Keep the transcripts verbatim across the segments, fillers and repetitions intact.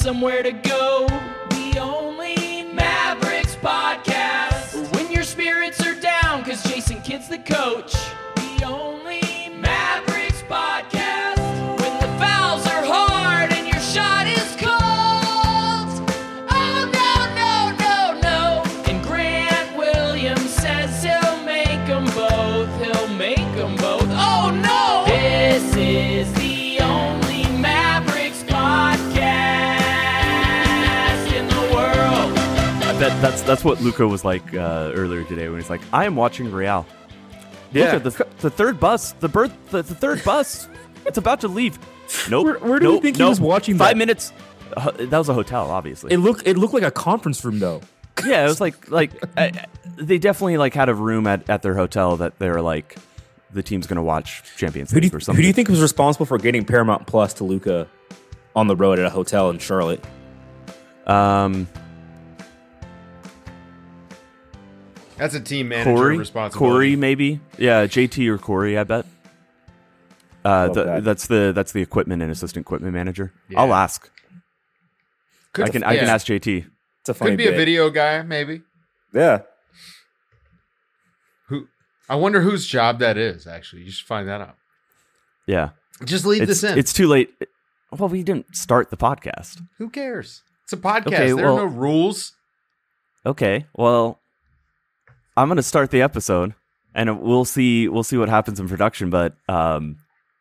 somewhere to go. The only Mavericks podcast. When your spirits are down, cause Jason Kidd's the coach. The only Mavericks podcast. When the fouls are hard and your shot is cold. Oh no, no, no, no. And Grant Williams says he'll make them both. He'll make them both. Oh no! This is the only Mavericks podcast in the world. That, that's that's what Luka was like uh, earlier today when he's like, I am watching Real. Yeah. Luka, the, the third bus, the birth, the, the third bus, it's about to leave. Nope. Where- where do you nope, think he nope. was watching Five that? minutes. Uh, that was a hotel, obviously. It looked it looked like a conference room though. yeah, it was like like uh, they definitely like had a room at, at their hotel that they were like, the team's gonna watch Champions Who do League you, or something. who do you think was responsible for getting Paramount Plus to Luka on the road at a hotel in Charlotte? Um, That's a team manager Corey, responsibility. Corey, maybe. Yeah, J T or Corey, I bet. Uh, Love the, that. that's the that's the equipment and assistant equipment manager. Yeah. I'll ask. Could, I can I can yeah. ask J T. It's a funny Could be a bit. video guy, maybe. Yeah. Who? I wonder whose job that is. Actually, you should find that out. Yeah, Just leave it's this in. it's too late. Well, we didn't start the podcast. Who cares? It's a podcast. Okay, there well- are no rules. Okay, well, I'm gonna start the episode, and we'll see we'll see what happens in production. But um,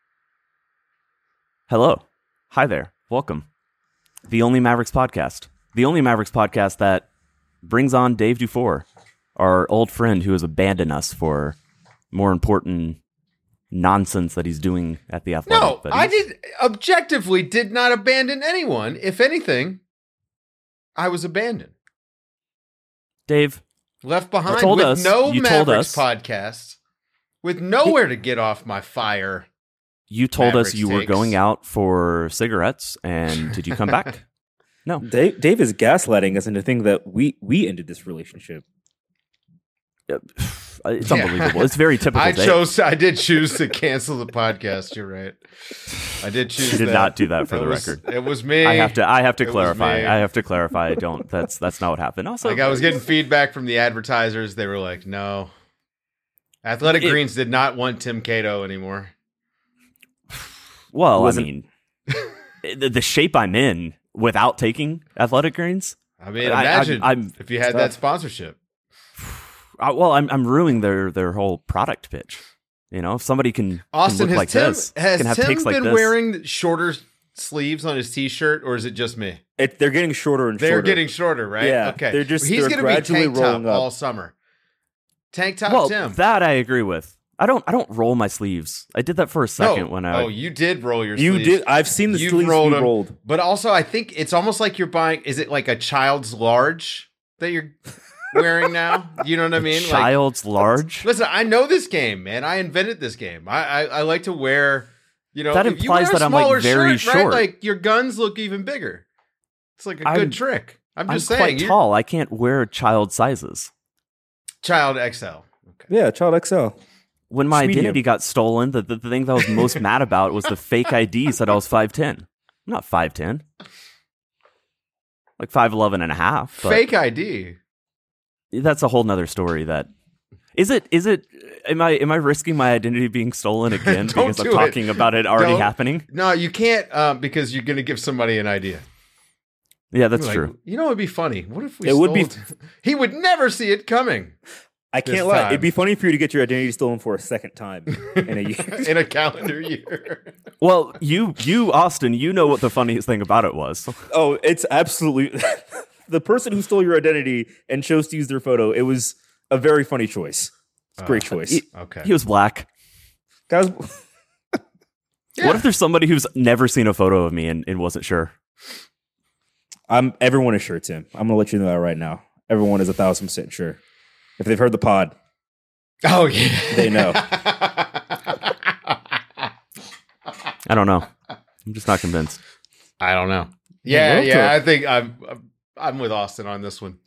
hello, hi there, welcome, the Only Mavericks podcast, the only Mavericks podcast that brings on Dave Dufour, our old friend who has abandoned us for more important nonsense that he's doing at the Athletic. No, But I he's- did objectively did not abandon anyone. If anything, I was abandoned, Dave, left behind told with us- no you told Mavericks us- podcast, with nowhere to get off my fire. you told Mavericks us you were takes. going out for cigarettes, and did you come back? No. Dave, Dave is gaslighting us into thinking that we we ended this relationship. It's Yeah. unbelievable. It's very typical. I Dave. chose. I did choose to cancel the podcast. You're right. I did choose. You did that. not do that for It the was- record. It was me. I have to. I have to It was clarify. me. I have to clarify. I don't. That's that's not what happened. Also, Like I was getting feedback from the advertisers. They were like, "No, Athletic It- Greens did not want Tim Cato anymore." well, I wasn't- mean, the, the shape I'm in without taking Athletic Greens. I mean, I- imagine I'm- I'm- if you had that sponsorship. Uh, well, I'm I'm ruining their their whole product pitch. You know, if somebody can, Austin, can look has like Tim this, has can have Tim takes been like this. wearing shorter sleeves on his T-shirt, or is it just me? It, they're getting shorter and They're shorter. getting shorter, right? Yeah, okay. they're just- he's they're gonna gradually be tank top rolling up. all summer. Tank top well, Tim. that I agree with. I don't I don't roll my sleeves. I did that for a second no. when I oh, you did roll your You sleeves. did. I've seen the You've sleeves rolled be them. rolled. But also, I think it's almost like you're buying. Is it like a child's large that you're wearing now? You know what I mean? Like, child's large. listen, I know this game, man. I invented this game. I I, I like to wear. You know, That if you implies wear a that I'm, like, smaller very shirt, right? short. Like your guns look even bigger. It's like a I'm- good trick. I'm I'm just saying. quite you're- tall. I can't wear child sizes. Child X L. Okay. Yeah, Child X L. When my Medium. identity got stolen, the, the, the thing that I was most mad about was the fake I D said I was five ten. I'm not five ten. Like five eleven and a half. But Fake I D. that's a whole nother story that... Is it, is it, am I, am I risking my identity being stolen again Don't because I'm do it. talking about it already Don't. happening? No, you can't um, because you're going to give somebody an idea. Yeah, that's Like, true. You know, it'd be funny. What if we? It would be- stole it? He would never see it coming I This can't lie. time. It'd be funny for you to get your identity stolen for a second time in a year. in a calendar year. Well, you, you, Austin, you know what the funniest thing about it was. Oh, it's absolutely the person who stole your identity and chose to use their photo. It was a very funny choice. It's a great choice. He, Okay. he was black. Guys, Yeah. What if there's somebody who's never seen a photo of me and, and wasn't sure? I'm everyone is sure, Tim. I'm gonna let you know that right now. Everyone is a thousand percent sure. If they've heard the pod, Oh yeah. they know. I don't know. I'm just not convinced. I don't know. Yeah, love yeah. to- I think I'm I'm with Austin on this one.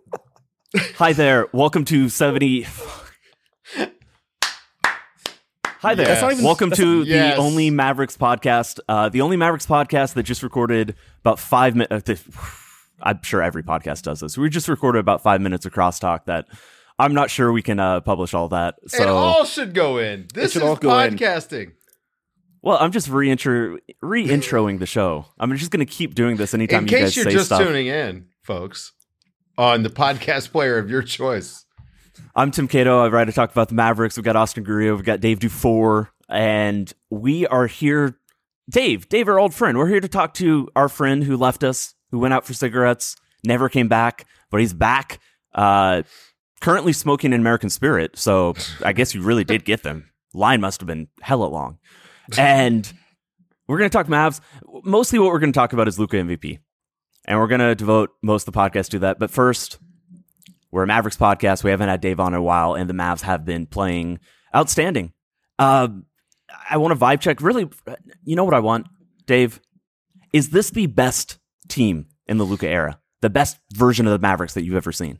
Hi there. Welcome to seventy. Hi there. That's not even- Welcome to Yes. the Only Mavericks podcast. Uh, the Only Mavericks podcast that just recorded about five minutes. I'm sure every podcast does this. We just recorded about five minutes of crosstalk that I'm not sure we can uh, publish all that. So, it all should go in. This should is all go in. podcasting. well, I'm just reintro re-introing the show. I'm just going to keep doing this anytime In you guys case you're say just stuff. tuning in, folks, on the podcast player of your choice. I'm Tim Cato. I write to talk about the Mavericks. We've got Austin Gurria. We've got Dave Dufour. And we are here. Dave, Dave, our old friend. We're here to talk to our friend who left us, who went out for cigarettes, never came back, but he's back. Uh, currently smoking an American Spirit. So I guess you really did get them. Line must have been hella long. And we're going to talk Mavs. Mostly what we're going to talk about is Luka M V P. And we're going to devote most of the podcast to that. But first, we're a Mavericks podcast. We haven't had Dave on in a while, and the Mavs have been playing outstanding. Uh, I want a vibe check. Really, you know what I want, Dave? Is this the best team in the Luka era? The best version of the Mavericks that you've ever seen?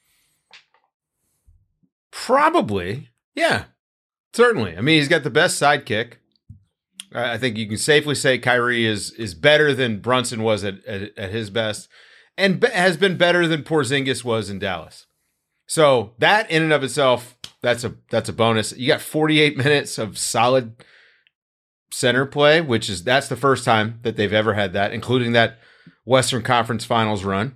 Probably. Yeah. Certainly. I mean, he's got the best sidekick. I I think you can safely say Kyrie is is better than Brunson was at, at, at his best, and be, has been better than Porzingis was in Dallas. So that in and of itself, that's a that's a bonus. You got forty-eight minutes of solid center play, which is that's the first time that they've ever had that, including that Western Conference Finals run.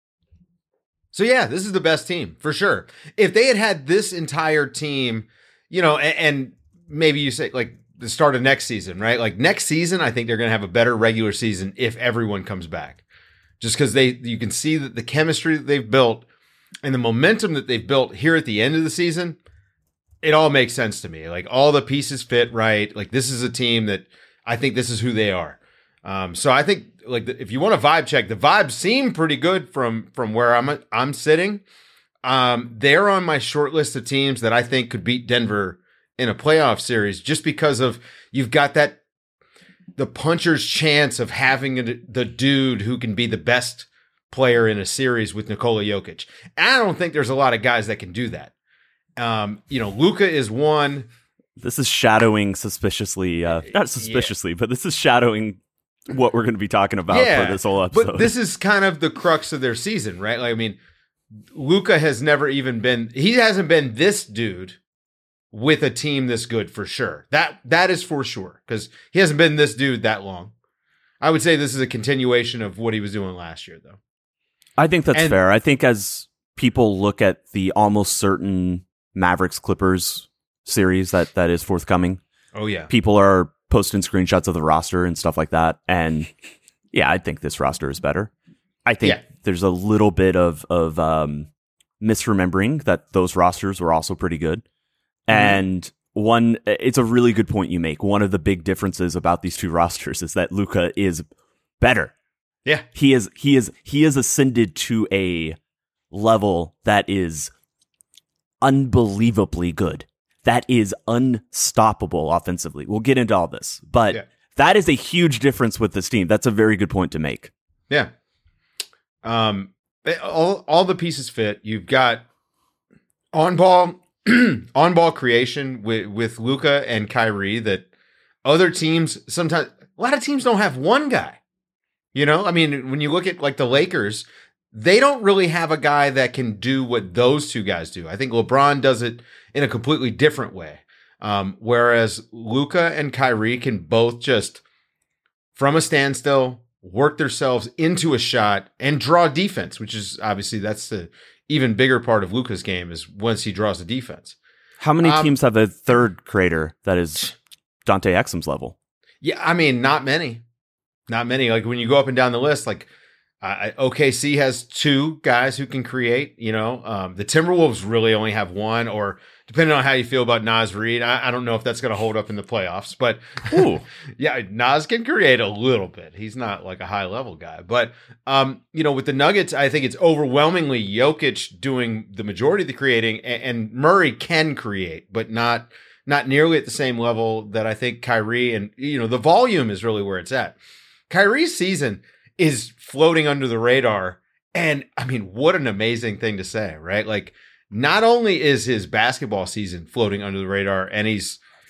So yeah, this is the best team for sure. If they had had this entire team, you know, and, and maybe you say like the start of next season, right? Like next season, I think they're going to have a better regular season if everyone comes back, just because they you can see that the chemistry that they've built and the momentum that they've built here at the end of the season, it all makes sense to me. Like all the pieces fit right. Like this is a team that I think this is who they are. Um, so I think like the, if you want a vibe check, the vibes seem pretty good from from where I'm I'm sitting. Um, they're on my short list of teams that I think could beat Denver in a playoff series, just because of you've got that the puncher's chance of having a, the dude who can be the best player in a series with Nikola Jokic. And I don't think there's a lot of guys that can do that. Um, you know, Luka is one. This is shadowing suspiciously, uh, not suspiciously, yeah. but this is shadowing what we're going to be talking about yeah, for this whole episode. But this is kind of the crux of their season, right? Like, I mean, Luka has never even been, he hasn't been this dude with a team this good for sure. That That is for sure, because he hasn't been this dude that long. I would say this is a continuation of what he was doing last year, though. I think that's and, fair. I think as people look at the almost certain Mavericks Clippers series that, that is forthcoming, oh yeah, people are posting screenshots of the roster and stuff like that. And yeah, I think this roster is better. I think yeah. there's a little bit of, of um, misremembering that those rosters were also pretty good. Mm-hmm. And one, it's a really good point you make. One of the big differences about these two rosters is that Luka is better. Yeah. He is, he is, he is ascended to a level that is unbelievably good. That is unstoppable offensively. We'll get into all this, but yeah. that is a huge difference with this team. That's a very good point to make. Yeah. Um, all, all the pieces fit. You've got on ball, on ball creation with, with Luka and Kyrie that other teams sometimes, a lot of teams don't have one guy. You know, I mean, when you look at like the Lakers, they don't really have a guy that can do what those two guys do. I think LeBron does it in a completely different way. Um, whereas Luka and Kyrie can both just, from a standstill, work themselves into a shot and draw defense, which is obviously that's the even bigger part of Luka's game is once he draws the defense. How many um, teams have a third creator that is Dante Exum's level? Yeah, I mean, not many. Not many. Like when you go up and down the list, like uh, O K C has two guys who can create, you know, um, the Timberwolves really only have one, or depending on how you feel about Naz Reid, I, I don't know if that's going to hold up in the playoffs, but Ooh. yeah, Naz can create a little bit. He's not like a high level guy, but um, you know, with the Nuggets, I think it's overwhelmingly Jokic doing the majority of the creating, and, and Murray can create, but not, not nearly at the same level that I think Kyrie, and you know, the volume is really where it's at. Kyrie's season is floating under the radar. And I mean, what an amazing thing to say, right? Like, not only is his basketball season floating under the radar and he's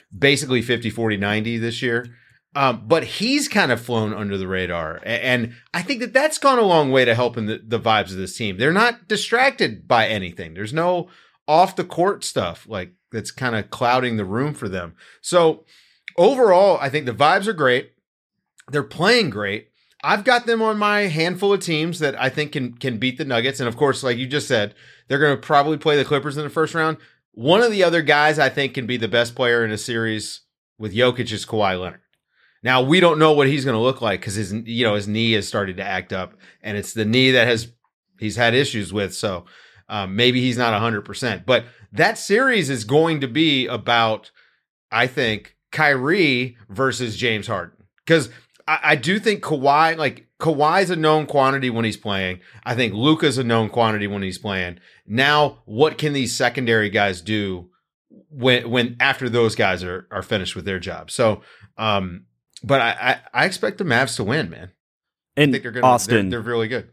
basically fifty, forty, ninety this year. Um, but he's kind of flown under the radar. And I think that that's gone a long way to helping the, the vibes of this team. They're not distracted by anything. There's no off the court stuff like that's kind of clouding the room for them. So overall, I think the vibes are great. They're playing great. I've got them on my handful of teams that I think can, can beat the Nuggets. And of course, like you just said, they're going to probably play the Clippers in the first round. One of the other guys I think can be the best player in a series with Jokic is Kawhi Leonard. Now, we don't know what he's going to look like because his, you know, his knee has started to act up, and it's the knee that has he's had issues with. So um, maybe he's not one hundred percent. But that series is going to be about, I think, Kyrie versus James Harden. Because I, I do think Kawhi, like Kawhi's a known quantity when he's playing. I think Luka's a known quantity when he's playing. Now, what can these secondary guys do when when after those guys are are finished with their job? So, um, but I, I, I expect the Mavs to win, man. And I think they're gonna, Austin, they're, they're really good.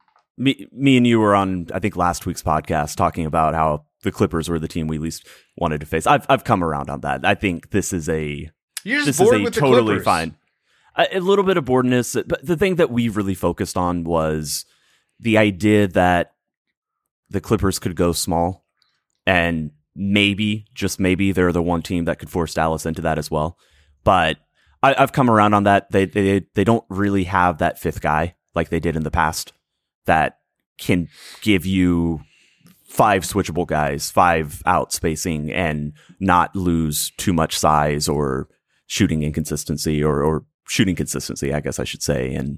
Me, me and you were on, I think, last week's podcast talking about how the Clippers were the team we least wanted to face. I've I've come around on that. I think this is a You're just this bored is a with the totally Clippers. fine. A, a little bit of boredness, but the thing that we really focused on was the idea that the Clippers could go small, and maybe, just maybe, they're the one team that could force Dallas into that as well. But I, I've come around on that. They they they don't really have that fifth guy like they did in the past that can give you five switchable guys, five out spacing, and not lose too much size or shooting inconsistency or, or shooting consistency, I guess I should say. And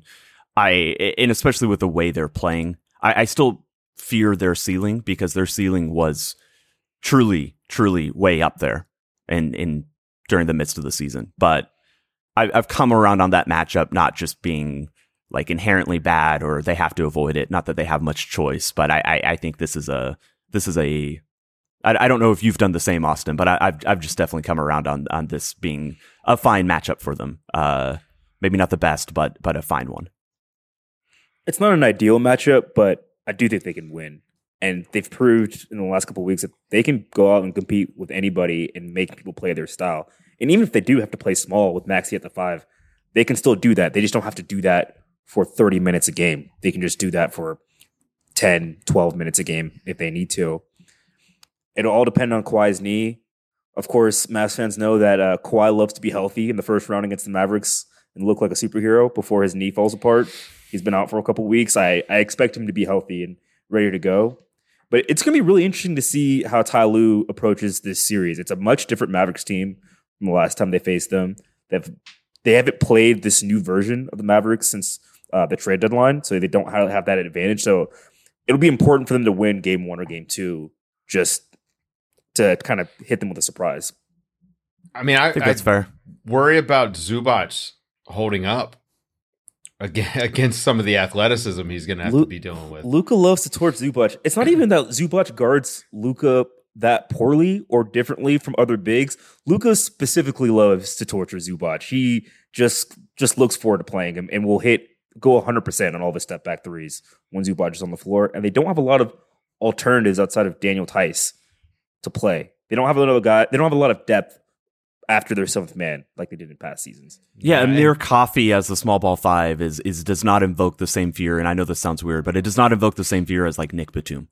I, and especially with the way they're playing, I, I still fear their ceiling because their ceiling was truly, truly way up there and in during the midst of the season. But I, I've come around on that matchup, not just being like inherently bad or they have to avoid it. Not that they have much choice, but I, I, I think this is a, this is a, I, I don't know if you've done the same, Austin, but I, I've, I've just definitely come around on, on this being a fine matchup for them. Uh, maybe not the best, but, but a fine one. It's not an ideal matchup, but I do think they can win. And they've proved in the last couple of weeks that they can go out and compete with anybody and make people play their style. And even if they do have to play small with Maxey at the five, they can still do that. They just don't have to do that for thirty minutes a game. They can just do that for ten, twelve minutes a game if they need to. It'll all depend on Kawhi's knee. Of course, Mavs fans know that uh, Kawhi loves to be healthy in the first round against the Mavericks and look like a superhero before his knee falls apart. He's been out for a couple weeks. I, I expect him to be healthy and ready to go. But it's going to be really interesting to see how Ty Lue approaches this series. It's a much different Mavericks team from the last time they faced them. They've, they haven't played this new version of the Mavericks since uh, the trade deadline, so they don't have, have that advantage. So it'll be important for them to win game one or game two just to kind of hit them with a surprise. I mean, I, I think that's I fair. worry about Zubac holding up against some of the athleticism he's going to have Lu- to be dealing with. Luka loves to torch Zubac. It's not even that Zubac guards Luka that poorly or differently from other bigs. Luka specifically loves to torture Zubac. He just just looks forward to playing him and will hit go one hundred percent on all the step back threes when Zubac is on the floor. And they don't have a lot of alternatives outside of Daniel Tice to play. They don't have another guy. They don't have a lot of depth after their seventh man like they did in past seasons. Yeah, Yeah, Amir Coffey as the small ball five is is does not invoke the same fear, and I know this sounds weird, but it does not invoke the same fear as like Nick Batum.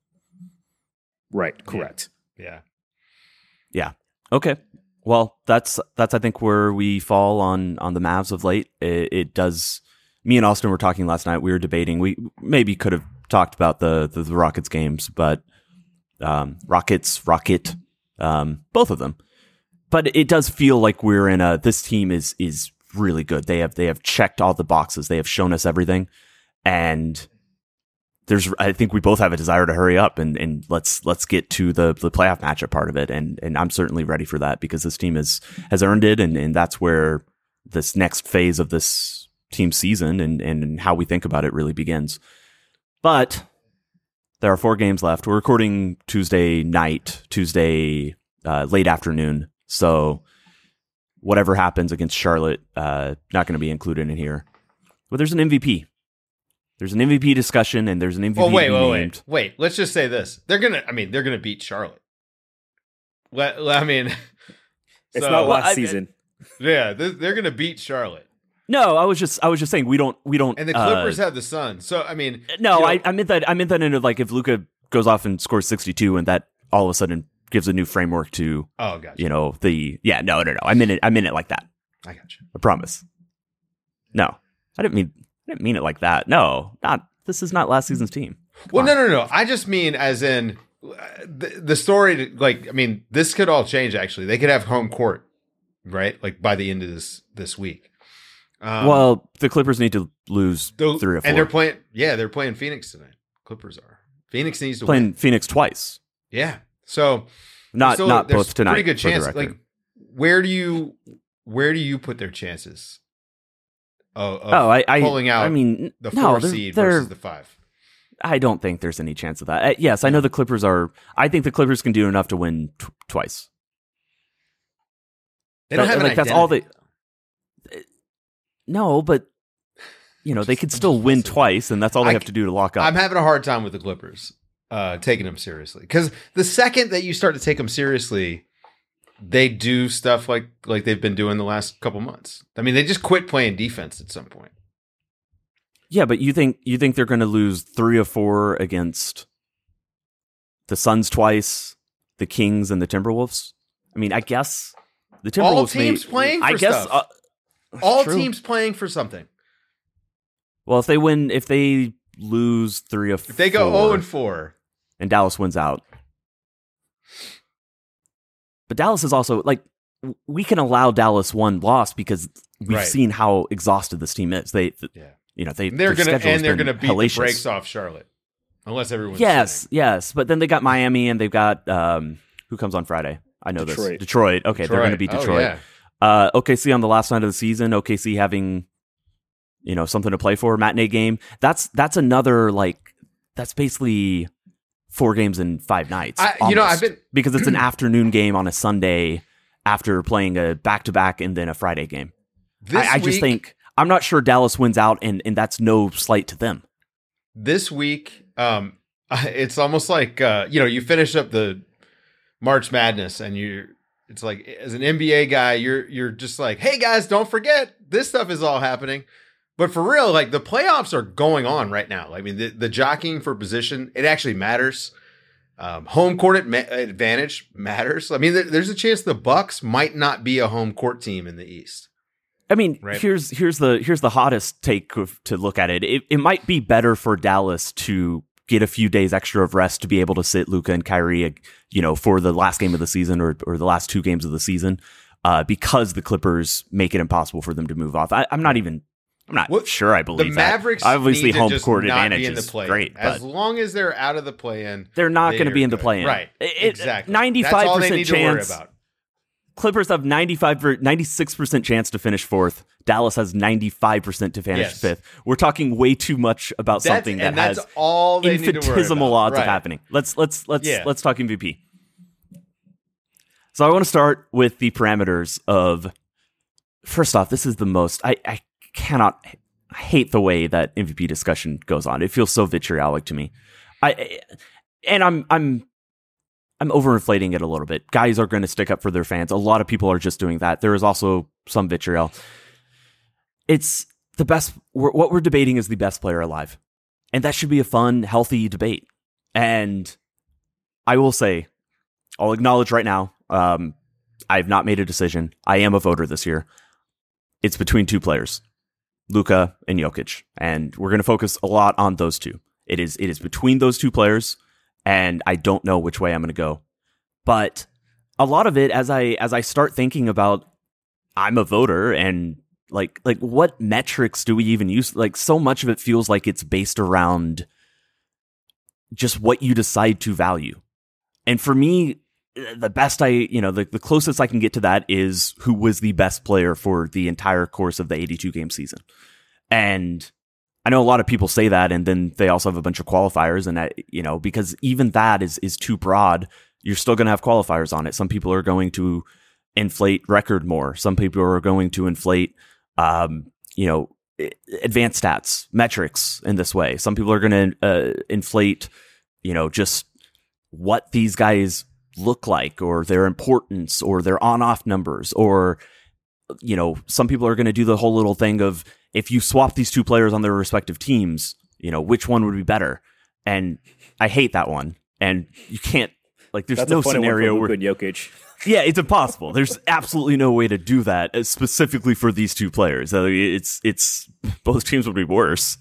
Right. Correct. Yeah. Yeah. Okay. Well, that's that's I think where we fall on on the Mavs of late. It, it does. Me and Austin were talking last night. We were debating. We maybe could have talked about the the, the Rockets games, but um, Rockets, Rocket, um, both of them. But it does feel like we're in a. This team is is really good. They have they have checked all the boxes. They have shown us everything, and there's. I think we both have a desire to hurry up and, and let's let's get to the the playoff matchup part of it. And and I'm certainly ready for that because this team is has earned it, and, and that's where this next phase of this team season and and how we think about it really begins. But there are four games left. We're recording Tuesday night, Tuesday uh, late afternoon. So whatever happens against Charlotte, uh, not going to be included in here. But there's an M V P. There's an M V P discussion, and there's an M V P. Well, wait, to be wait, named. wait, wait. Let's just say this: they're gonna. I mean, they're gonna beat Charlotte. Let, let- I mean, It's So- not Well, last I- season. Yeah, they're, they're going to beat Charlotte. No, I was just I was just saying we don't we don't And the uh, Clippers have the Suns. So, I mean. No, you know, I, I meant that. I meant that into like if Luka goes off and scores sixty-two, and that all of a sudden gives a new framework to Oh, gotcha. you know the yeah. No, no, no. I meant it. I meant it like that. I got you. I promise. No, I didn't mean. I didn't mean it like that. No, not. This is not last season's team. Well, no, no, no. I just mean as in uh, the, the story. Like, I mean, this could all change. Actually, they could have home court, right? Like by the end of this this week. Um, Well, the Clippers need to lose the- three or four. and they're playing. Yeah, they're playing Phoenix tonight. Clippers are. Phoenix needs to playing win. Phoenix twice. Yeah. So Not still- not there's both tonight. Pretty good for the chance. record. Like, where do you where do you put their chances? Of, of oh, I, I pulling out I mean, the no, four they're, seed they're, versus the five. I don't think there's any chance of that. Uh, yes, I know the Clippers are. I think the Clippers can do enough to win t- twice. They don't That- have an like that's all they. identity. No, but you know they could still win twice, and that's all they I- have to do to lock up. I'm having a hard time with the Clippers uh, taking them seriously because the second that you start to take them seriously, they do stuff like like they've been doing the last couple months. I mean, they just quit playing defense at some point. Yeah, but you think you think they're going to lose three or four against the Suns twice, the Kings, and the Timberwolves? I mean, I guess the Timberwolves. All teams may, playing for I guess stuff. uh, All true. teams playing for something. Well, if they win, if they lose three or If they go four, zero and four, and Dallas wins out, but Dallas is also like w- we can allow Dallas one loss because we've Right. seen how exhausted this team is. They, th- yeah, you know, they they're their gonna schedule has and they're been gonna beat hellacious. the brakes off Charlotte, unless everyone's Yes, sitting. yes, but then they got Miami and they've got um, who comes on Friday? I know this Detroit. Detroit. Okay, they're going to beat Oh, Detroit. yeah. Uh, O K C on the last night of the season. O K C having, you know, something to play for. Matinee game. That's that's another like that's basically four games in five nights. I- you know, almost, I've been- because it's an afternoon game on a Sunday after playing a back to back and then a Friday game. This I, I just week- think I'm not sure Dallas wins out, and and that's no slight to them. this week, um, it's almost like uh, you know, you finish up the March Madness, and you, it's like as an N B A guy, you're you're just like, hey guys, don't forget this stuff is all happening. But for real, like the playoffs are going on right now. I mean, the, the jockeying for position, it actually matters. Um, home court adma- advantage matters. I mean, there, there's a chance the Bucks might not be a home court team in the East. I mean, Right. here's here's the here's the hottest take of, to look at it. it. It might be better for Dallas to get a few days extra of rest to be able to sit Luka and Kyrie, you know, for the last game of the season or or the last two games of the season, uh, because the Clippers make it impossible for them to move off. I, I'm not even. I'm not What- sure I The believe Mavericks that. Obviously, need to home just court not advantage be in the is play-in. great, As but long as they're out of the play-in, they're not they going to are be in the good. play-in. Right. It- Exactly. ninety-five That's all they percent need to worry chance. about. Clippers have ninety-five, ninety-six percent chance to finish fourth. Dallas has ninety-five percent to finish Yes. fifth. We're talking way too much about That's, something that and that's has all they need to worry infinitesimal about. odds Right. of happening. Let's let's let's Yeah. let's talk M V P. So I want to start with the parameters of. First off, this is the most I, I cannot I hate the way that M V P discussion goes on. It feels so vitriolic to me. I and I'm I'm I'm overinflating it a little bit. Guys are going to stick up for their fans. A lot of people are just doing that. There is also some vitriol. It's the best. We're, what we're debating is the best player alive, and that should be a fun, healthy debate. And I will say, I'll acknowledge right now, um, I have not made a decision. I am a voter this year. It's between two players, Luka and Jokic, and we're going to focus a lot on those two. It is it is between those two players, and I don't know which way I'm going to go. But a lot of it, as I as I start thinking about, I'm a voter, and like like what metrics do we even use? Like so much of it feels like it's based around just what you decide to value. And for me, the best I, you know, the, the closest I can get to that is who was the best player for the entire course of the eighty-two game season. And I know a lot of people say that, and then they also have a bunch of qualifiers, and that, you know, because even that is is too broad. You're still going to have qualifiers on it. Some people are going to inflate record more. Some people are going to inflate, um, you know, advanced stats, metrics in this way. Some people are going to uh, inflate, you know, just what these guys look like, or their importance, or their on-off numbers, or, you know, some people are going to do the whole little thing of, if you swap these two players on their respective teams, you know, which one would be better? And I hate that one. And you can't, like, there's That's no a funny scenario one for where Luka and Jokic. yeah, it's impossible. There's absolutely no way to do that, uh, specifically for these two players. Uh, It's it's both teams would be worse.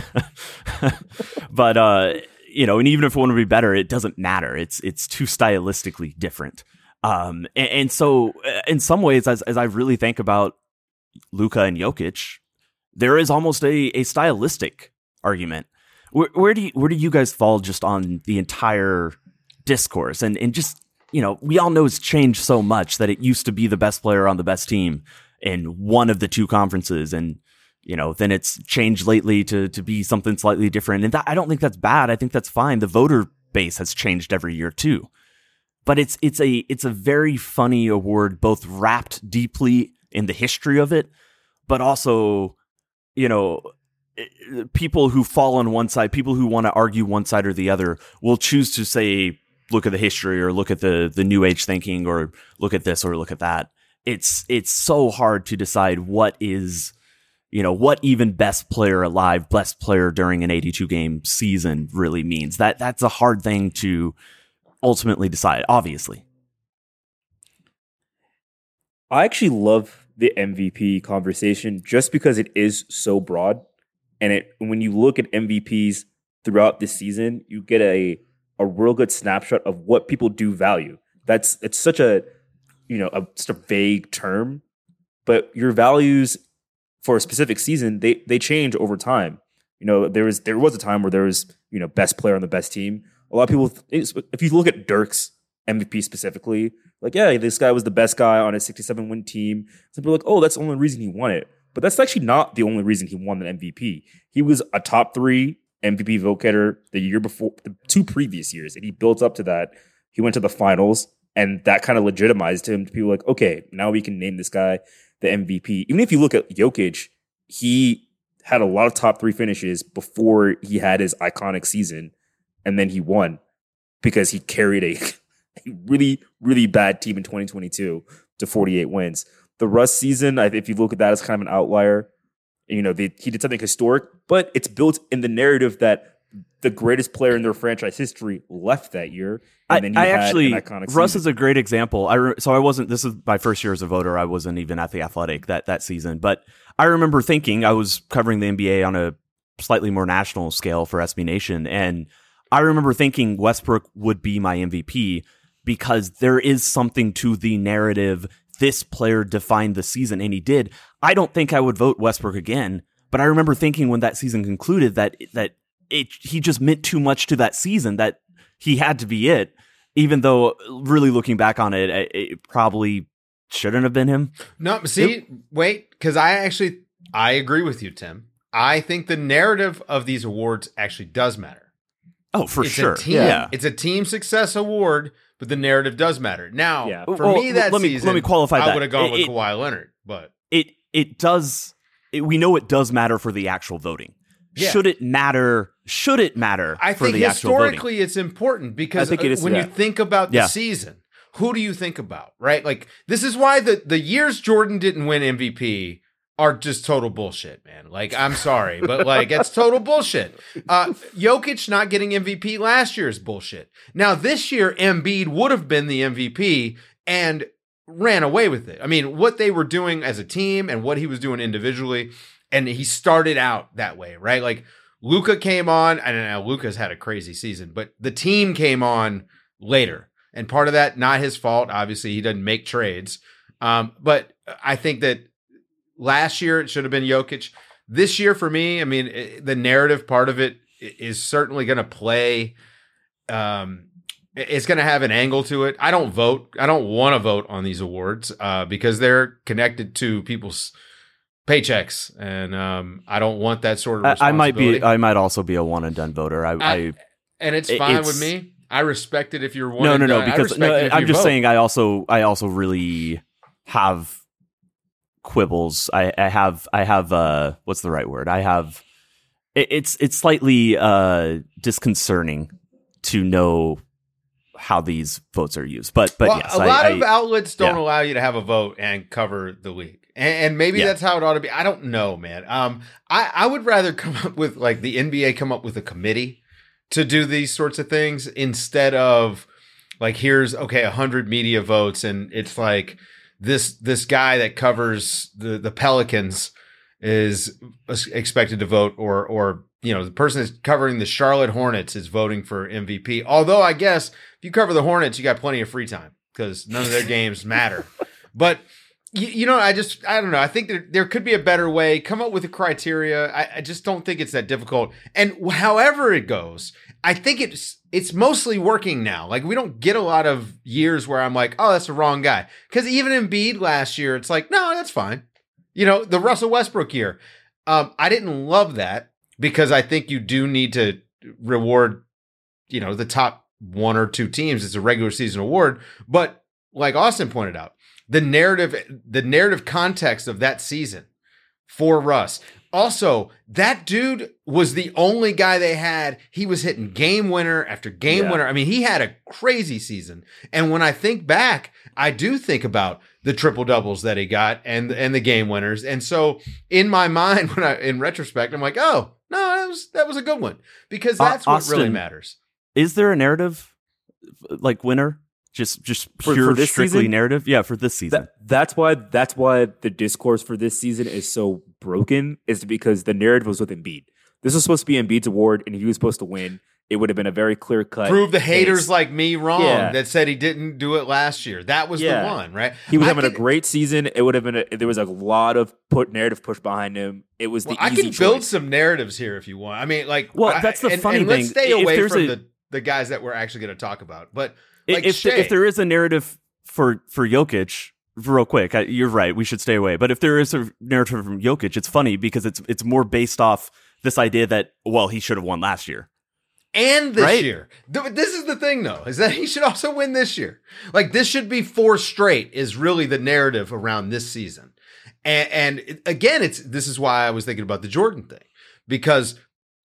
But uh, you know, and even if one would be better, it doesn't matter. It's it's too stylistically different. Um, and, and so, uh, in some ways, as as I really think about Luka and Jokic, there is almost a a stylistic argument. Where, where do you, where do you guys fall just on the entire discourse and and just, you know, we all know it's changed so much that it used to be the best player on the best team in one of the two conferences. And, you know, then it's changed lately to, to be something slightly different. And that, I don't think that's bad. I think that's fine. The voter base has changed every year too, but it's, it's a, it's a very funny award, both wrapped deeply in the history of it, but also, you know, people who fall on one side, people who want to argue one side or the other will choose to say, look at the history or look at the the new age thinking or look at this or look at that. It's it's so hard to decide what is, you know, what even best player alive, best player during an eighty-two game season really means. That that's a hard thing to ultimately decide, obviously. I actually love the M V P conversation just because it is so broad. And it when you look at M V Ps throughout the season, you get a a real good snapshot of what people do value. That's it's such a, you know, a, just a vague term, but your values for a specific season, they they change over time. You know, there was there was a time where there was, you know, best player on the best team. A lot of people, if you look at Dirk's M V P specifically, like, yeah, this guy was the best guy on a sixty-seven win team. Some people are like, oh, that's the only reason he won it. But that's actually not the only reason he won the M V P. He was a top three M V P vote getter the year before, the two previous years, and he built up to that. He went to the finals, and that kind of legitimized him to people like, okay, now we can name this guy the M V P. Even if you look at Jokic, he had a lot of top three finishes before he had his iconic season, and then he won because he carried a, a really, really bad team in twenty twenty-two to forty-eight wins. The Russ season, if you look at that as kind of an outlier, you know, they, he did something historic, but it's built in the narrative that the greatest player in their franchise history left that year. And then he I had actually, an iconic Russ season. is a great example. I re- so I wasn't, this is my first year as a voter. I wasn't even at the Athletic that, that season, but I remember thinking, I was covering the N B A on a slightly more national scale for S B Nation. And I remember thinking Westbrook would be my M V P because there is something to the narrative. This player defined the season, and he did. I don't think I would vote Westbrook again, but I remember thinking when that season concluded that that it he just meant too much to that season, that he had to be it, even though really looking back on it, it, it probably shouldn't have been him. No, see, it, wait, because I actually, I agree with you, Tim. I think the narrative of these awards actually does matter. Oh, for it's sure. A team, yeah. It's a team success award, but the narrative does matter. Now, Yeah. for Well, me that let me, season, let me qualify I that. would have gone It- with it- Kawhi Leonard, but It it does. It, we know it does matter for the actual voting. Yeah. Should it matter? Should it matter I for think the actual voting? historically it's important because I think it is, when yeah. you think about the Yeah. season, who do you think about, right? Like, this is why the, the years Jordan didn't win M V P are just total bullshit, man. Like, I'm sorry, but like, it's total bullshit. Uh, Jokic not getting M V P last year is bullshit. Now, this year, Embiid would have been the M V P and ran away with it. I mean, what they were doing as a team and what he was doing individually, and he started out that way, right? Like, Luka came on, and now Luka's had a crazy season, but the team came on later. And part of that, not his fault. Obviously, he doesn't make trades. Um, but I think that last year it should have been Jokic. This year, for me, I mean, it, the narrative part of it is certainly going to play. Um, it's going to have an angle to it. I don't vote. I don't want to vote on these awards uh, because they're connected to people's paychecks, and um, I don't want that sort of I, I responsibility. might be. I might also be a one and done voter. I. I- I and it's it- fine it's- with me. I respect it if you're one. no, and no, no. done. I Because respect no, it if I'm you just vote. saying. I also. I also really have quibbles. I, I have. I have. Uh, what's the right word? I have. It, it's. It's slightly uh, disconcerting to know how these votes are used. But but well, yes, a I, lot I, of outlets don't yeah. allow you to have a vote and cover the league, and, and maybe Yeah. that's how it ought to be. I don't know, man. Um, I I would rather come up with like the N B A come up with a committee to do these sorts of things instead of like here's okay a hundred media votes and it's like this this guy that covers the the Pelicans is expected to vote or or you know the person that's covering the Charlotte Hornets is voting for M V P. Although I guess if you cover the Hornets, you got plenty of free time because none of their games matter. But you, you know, I just I don't know. I think there there could be a better way. Come up with a criteria. I, I just don't think it's that difficult. And however it goes, I think it's it's mostly working now. Like we don't get a lot of years where I'm like, oh, that's the wrong guy. Because even Embiid last year, it's like, no, that's fine. You know, the Russell Westbrook year, um, I didn't love that because I think you do need to reward, you know, the top one or two teams. It's a regular season award, but like Austin pointed out, the narrative, the narrative context of that season for Russ. Also, that dude was the only guy they had. He was hitting game winner after game Yeah. winner. I mean, he had a crazy season. And when I think back, I do think about the triple doubles that he got and and the game winners. And so in my mind, when I in retrospect, I'm like, oh no, that was that was a good one because that's Uh, what really Austin, matters. Is there a narrative like winner? Just just For- pure for this strictly season? narrative? Yeah, for this season. That, that's why that's why the discourse for this season is so broken, is because the narrative was with Embiid. This was supposed to be Embiid's award, and he was supposed to win. It would have been a very clear cut. Prove the haters like me wrong Yeah. that said he didn't do it last year. That was Yeah. the one, right? He was I having a can- great season. It would have been. A, there was a lot of put narrative push behind him. It was Well, the I easy can build choice. some narratives here if you want. I mean, like, Well, I- that's the and, funny and thing. Let's stay If away there's from a- the, the guys that we're actually going to talk about. But I- like, if Shea, if there is a narrative for for Jokic, real quick, I, you're right. We should stay away. But if there is a narrative from Jokic, it's funny because it's it's more based off this idea that well he should have won last year. and this right? year, Th- this is the thing though, is that he should also win this year. Like, this should be four straight. Is really the narrative around this season. And, and it- again, it's this is why I was thinking about the Jordan thing because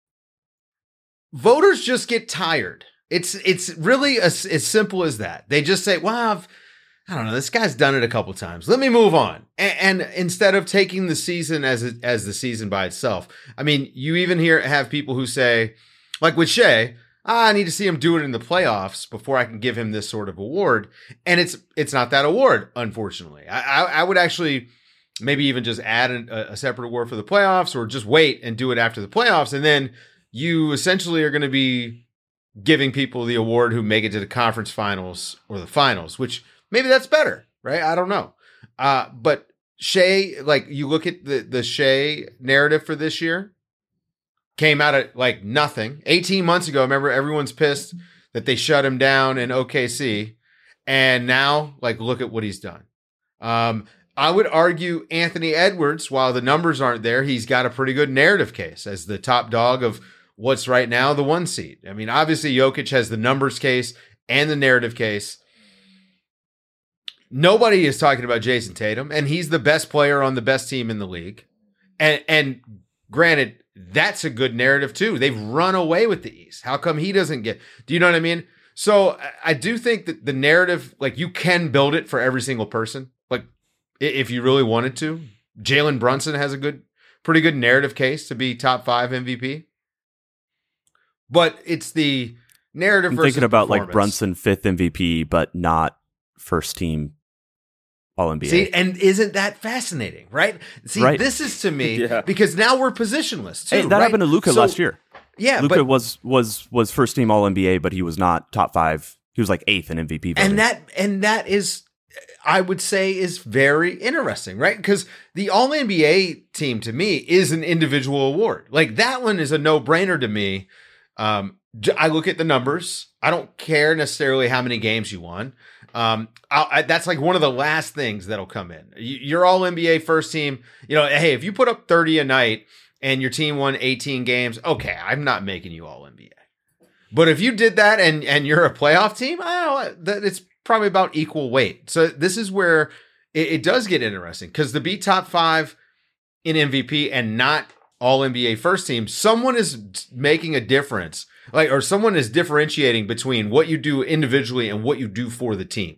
voters just get tired. It's it's really as, as simple as that. They just say, well, I've, I don't know, this guy's done it a couple times. Let me move on. And, and instead of taking the season as a, as the season by itself, I mean, you even hear have people who say, like with Shea, ah, I need to see him do it in the playoffs before I can give him this sort of award. And it's it's not that award, unfortunately. I, I, I would actually maybe even just add a, a separate award for the playoffs or just wait and do it after the playoffs. And then you essentially are going to be giving people the award who make it to the conference finals or the finals, which maybe that's better, right? I don't know. Uh, but Shea, like you look at the, the Shea narrative for this year, came out at like nothing. eighteen months ago, remember everyone's pissed that they shut him down in O K C. And now, like, look at what he's done. Um, I would argue Anthony Edwards, while the numbers aren't there, he's got a pretty good narrative case as the top dog of what's right now the one seed. I mean, obviously Jokic has the numbers case and the narrative case. Nobody is talking about Jason Tatum, and he's the best player on the best team in the league. And and granted, that's a good narrative too. They've run away with the East. How come he doesn't get? Do you know what I mean? So I- I do think that the narrative, like you can build it for every single person. Like i- if you really wanted to, Jalen Brunson has a good, pretty good narrative case to be top five M V P. But it's the narrative. I'm versus thinking about like performance. Brunson fifth M V P, but not first team All N B A. See, and isn't that fascinating, right? See, Right. this is to me Yeah. because now we're positionless too. Hey, that right? happened to Luca So- last year. Yeah, Luca but was was was first team All N B A, but he was not top five. He was like eighth in M V P voting. and that and that is, I would say, is very interesting, right? Because the All N B A team to me is an individual award. Like that one is a no brainer to me. Um, j- I look at the numbers. I don't care necessarily how many games you won. Um, I'll, I, that's like one of the last things that'll come in. You, you're all N B A first team. You know, hey, if you put up thirty a night and your team won eighteen games, okay, I'm not making you all N B A. But if you did that and and you're a playoff team, I don't know, that it's probably about equal weight. So this is where it, it does get interesting because to be top five in M V P and not all N B A first team, someone is making a difference Like, or someone is differentiating between what you do individually and what you do for the team.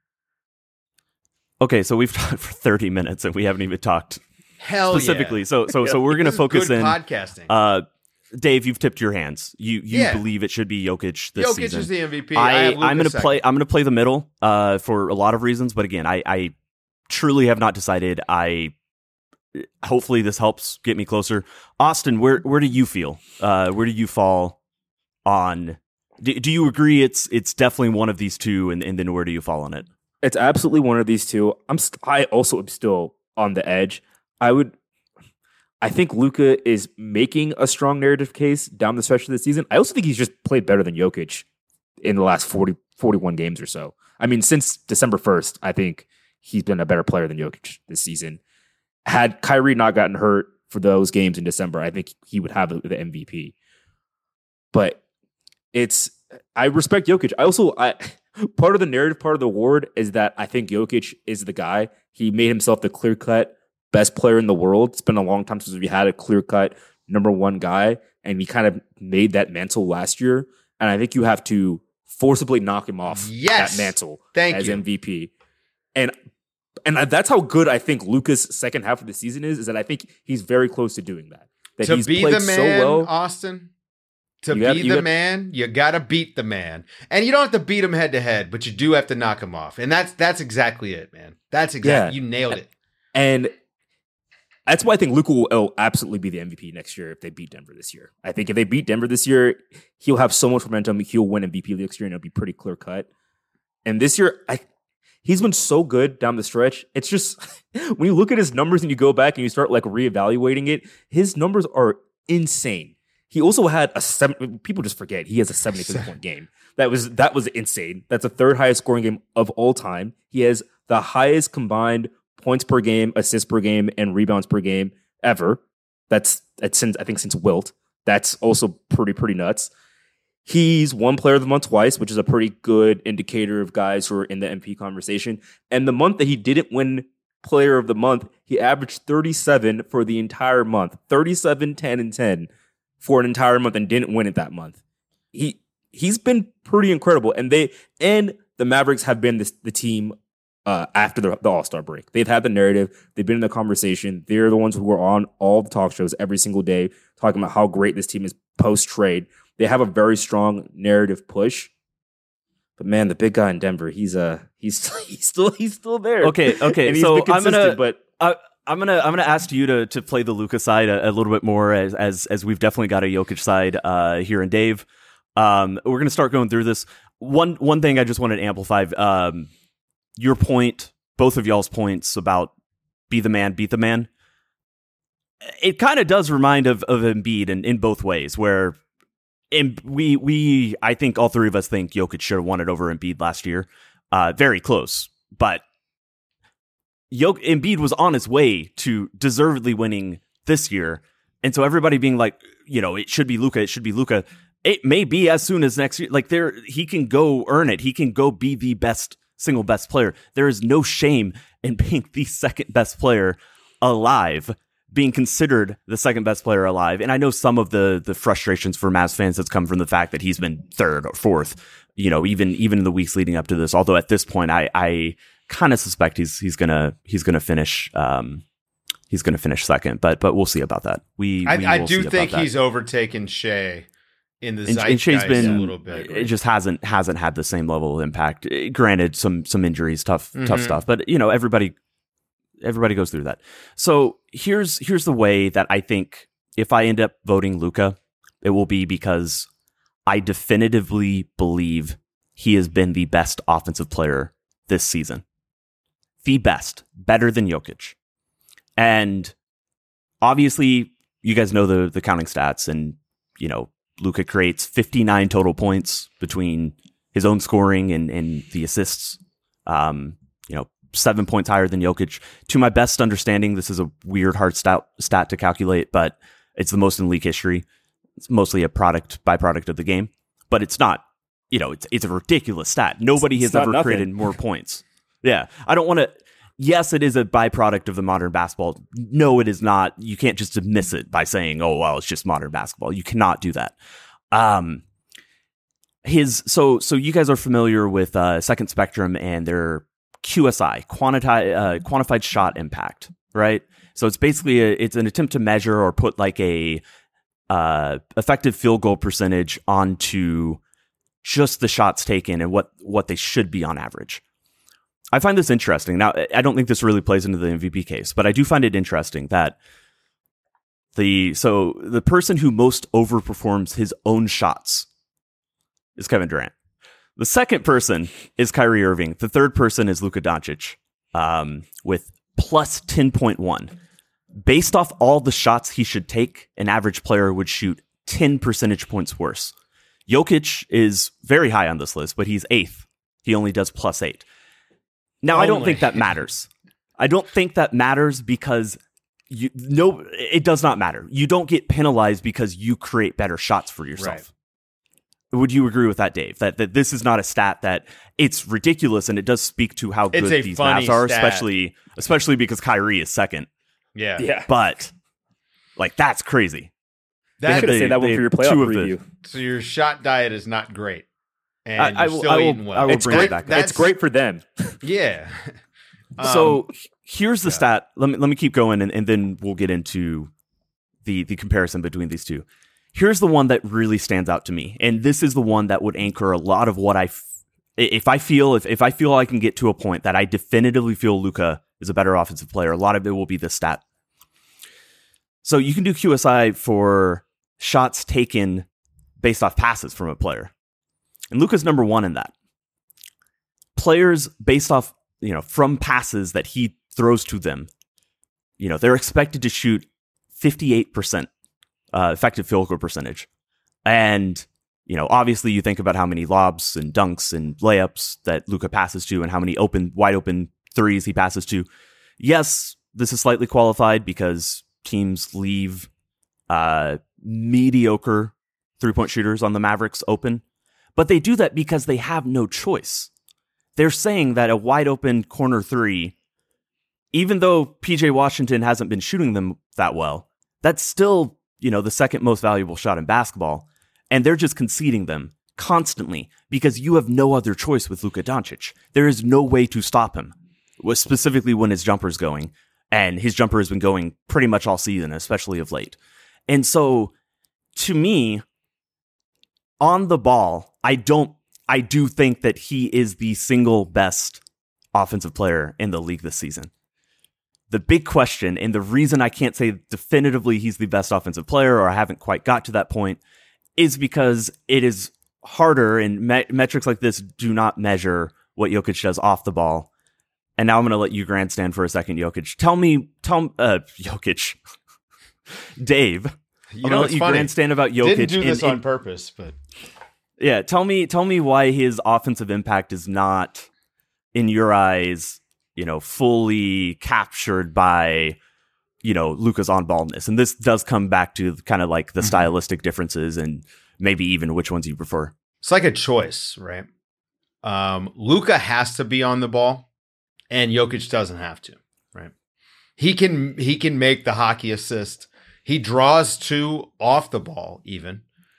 Okay, so we've talked for thirty minutes and we haven't even talked Hell specifically. yeah. So so so we're gonna This is focus good in. podcasting. Uh, Dave, you've tipped your hands. You you Yeah. believe it should be Jokic this Jokic season. is the M V P. I, I, have Luka I'm gonna second. play. I'm gonna play the middle uh, for a lot of reasons. But again, I, I truly have not decided. I hopefully this helps get me closer. Austin, where where do you feel? Uh, where do you fall on? Do, do you agree it's it's definitely one of these two, and, and then where do you fall on it? It's absolutely one of these two. I'm. St- I also am still on the edge. I would. I think Luka is making a strong narrative case down the stretch of the season. I also think he's just played better than Jokic in the last forty, forty-one games or so. I mean, since December first, I think he's been a better player than Jokic this season. Had Kyrie not gotten hurt for those games in December, I think he would have the M V P. But it's, I respect Jokic. I also, I part of the narrative, part of the award is that I think Jokic is the guy. He made himself the clear-cut best player in the world. It's been a long time since we had a clear-cut number one guy, and he kind of made that mantle last year. And I think you have to forcibly knock him off Yes. that mantle Thank as you. M V P. And and that's how good I think Luka's second half of the season is, is that I think he's very close to doing that. That To he's be played the man, so well. Austin, to You be have- you the have- man, you gotta beat the man. And you don't have to beat him head to head, but you do have to knock him off. And that's that's exactly it, man. That's exactly, Yeah. you nailed it. And that's why I think Luka will will absolutely be the M V P next year if they beat Denver this year. I think if they beat Denver this year, he'll have so much momentum. He'll win M V P next year, and it'll be pretty clear cut. And this year, I, he's been so good down the stretch. It's just when you look at his numbers and you go back and you start like reevaluating it, his numbers are insane. He also had a seven. People just forget he has a seventy-six point game. That was that was insane. That's the third highest scoring game of all time. He has the highest combined points per game, assists per game, and rebounds per game ever. That's that's since I think since Wilt. That's also pretty pretty nuts. He's won Player of the Month twice, which is a pretty good indicator of guys who are in the M V P conversation. And the month that he didn't win Player of the Month, he averaged thirty-seven for the entire month. thirty-seven, ten, and ten for an entire month and didn't win it that month. He he's been pretty incredible. And they and the Mavericks have been this, the team Uh, after the, the All-Star break. They've had the narrative. They've been in the conversation. They're the ones who are on all the talk shows every single day talking about how great this team is post-trade. They have a very strong narrative push. But man, the big guy in Denver, he's uh he's he's still he's still there. Okay, okay. And he's so been I'm gonna, consistent, but I, I'm gonna, I'm gonna ask you to to play the Luka side a, a little bit more, as as as we've definitely got a Jokic side uh, here in Dave. Um, we're gonna start going through this. One one thing I just wanted to amplify. Um, Your point, both of y'all's points about be the man, beat the man. It kind of does remind of of Embiid in, in both ways, where in, we we I think all three of us think Jokic should have won it over Embiid last year, uh, very close. But Jok- Embiid was on his way to deservedly winning this year, and so everybody being like, you know, it should be Luka, it should be Luka. It may be as soon as next year. Like there, he can go earn it. He can go be the best. Single best player. There is no shame in being the second best player alive, being considered the second best player alive. And I know some of the the frustrations for Mavs fans has come from the fact that he's been third or fourth, you know, even even in the weeks leading up to this. Although at this point, I I kind of suspect he's he's gonna he's gonna finish um he's gonna finish second. But but we'll see about that. We I, we I will do see think about that. he's overtaken Shea in the And, and Shea's zeitgeist been a little bit. It just hasn't hasn't had the same level of impact. Eh, Granted, some some injuries, tough tough Mhm. stuff, but you know everybody everybody goes through that. So here's here's the way that I think if I end up voting Luka, it will be because I definitively believe he has been the best offensive player this season, the best, better than Jokic, and obviously you guys know the the counting stats, and you know. Luka creates fifty-nine total points between his own scoring and, and the assists. Um, you know, seven points higher than Jokic. To my best understanding, this is a weird, hard stat, stat to calculate, but it's the most in league history. It's mostly a product, byproduct of the game, but it's not, you know, it's it's a ridiculous stat. Nobody It's has not ever nothing. created more points. Yeah. I don't want to, yes, it is a byproduct of the modern basketball. No, it is not. You can't just dismiss it by saying, oh, well, it's just modern basketball. You cannot do that. Um, his so so you guys are familiar with uh, Second Spectrum and their Q S I, quantified uh, quantified shot impact, right? So it's basically a, it's an attempt to measure or put like a uh, effective field goal percentage onto just the shots taken and what what they should be on average. I find this interesting. Now, I don't think this really plays into the M V P case, but I do find it interesting that the so the person who most overperforms his own shots is Kevin Durant. The second person is Kyrie Irving. The third person is Luka Doncic um, with plus ten point one. Based off all the shots he should take, an average player would shoot ten percentage points worse. Jokic is very high on this list, but he's eighth. He only does plus eight. Now, only. I don't think that matters. I don't think that matters because you no, it does not matter. You don't get penalized because you create better shots for yourself. Right. Would you agree with that, Dave? That that this is not a stat that it's ridiculous, and it does speak to how good these maps are, stat. especially especially because Kyrie is second. Yeah, yeah. But like that's crazy. That should say that one for your playoff preview. The, so your shot diet is not great, and I, you're I will, still I will, eating well. I will it's bring great, it back. It's great for them. Yeah. Um, so here's the yeah. stat. Let me let me keep going, and, and then we'll get into the the comparison between these two. Here's the one that really stands out to me, and this is the one that would anchor a lot of what I, f- if I feel if if I feel I can get to a point that I definitively feel Luka is a better offensive player. A lot of it will be this stat. So you can do Q S I for shots taken based off passes from a player, and Luka's number one in that. Players based off you know from passes that he throws to them, you know they're expected to shoot fifty-eight percent. Uh, effective field goal percentage. And, you know, obviously you think about how many lobs and dunks and layups that Luka passes to and how many open, wide open threes he passes to. Yes, this is slightly qualified because teams leave uh, mediocre three-point shooters on the Mavericks open, but they do that because they have no choice. They're saying that a wide open corner three, even though P J Washington hasn't been shooting them that well, that's still you know, the second most valuable shot in basketball, and they're just conceding them constantly because you have no other choice with Luka Doncic. There is no way to stop him, specifically when his jumper's going, and his jumper has been going pretty much all season, especially of late. And so, to me, on the ball, I don't, I do think that he is the single best offensive player in the league this season. The big question, and the reason I can't say definitively he's the best offensive player, or I haven't quite got to that point, is because it is harder, and me- metrics like this do not measure what Jokic does off the ball. And now I'm going to let you grandstand for a second, Jokic. Tell me, tell uh, Jokic, Dave. You I'm know, going to let it's you funny. grandstand about Jokic. Didn't do this and, on and, purpose, but yeah, tell me, tell me why his offensive impact is not, in your eyes, you know, fully captured by, you know, Luka's on-ballness. And this does come back to kind of like the mm-hmm. stylistic differences and maybe even which ones you prefer. It's like a choice, right? Um, Luka has to be on the ball, and Jokic doesn't have to, right? He can he can make the hockey assist. He draws two off the ball, even.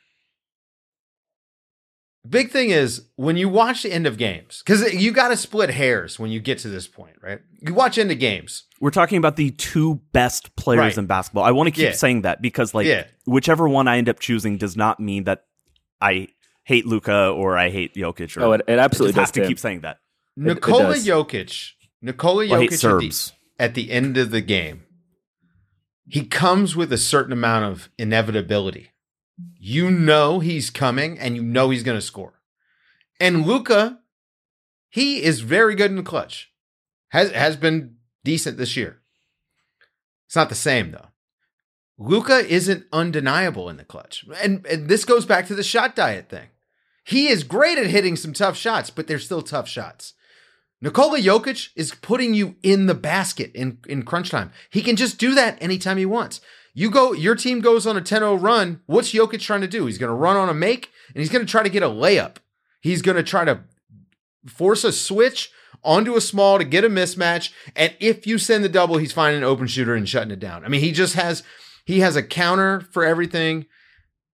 Big thing is when you watch the end of games, because you got to split hairs when you get to this point, right? You watch end of games. We're talking about the two best players right. in basketball. I want to keep yeah. saying that because, like, yeah. whichever one I end up choosing does not mean that I hate Luka or I hate Jokic. Or oh, it, it absolutely I just does. have to keep saying that. Nikola Jokic, Nikola well, Jokic at the, at the end of the game, he comes with a certain amount of inevitability. You know he's coming, and you know he's going to score. And Luka, he is very good in the clutch. Has has been decent this year. It's not the same, though. Luka isn't undeniable in the clutch. And, and this goes back to the shot diet thing. He is great at hitting some tough shots, but they're still tough shots. Nikola Jokic is putting you in the basket in, in crunch time. He can just do that anytime he wants. You go, your team goes on a ten oh run. What's Jokic trying to do? He's going to run on a make, and he's going to try to get a layup. He's going to try to force a switch onto a small to get a mismatch. And if you send the double, he's finding an open shooter and shutting it down. I mean, he just has, he has a counter for everything.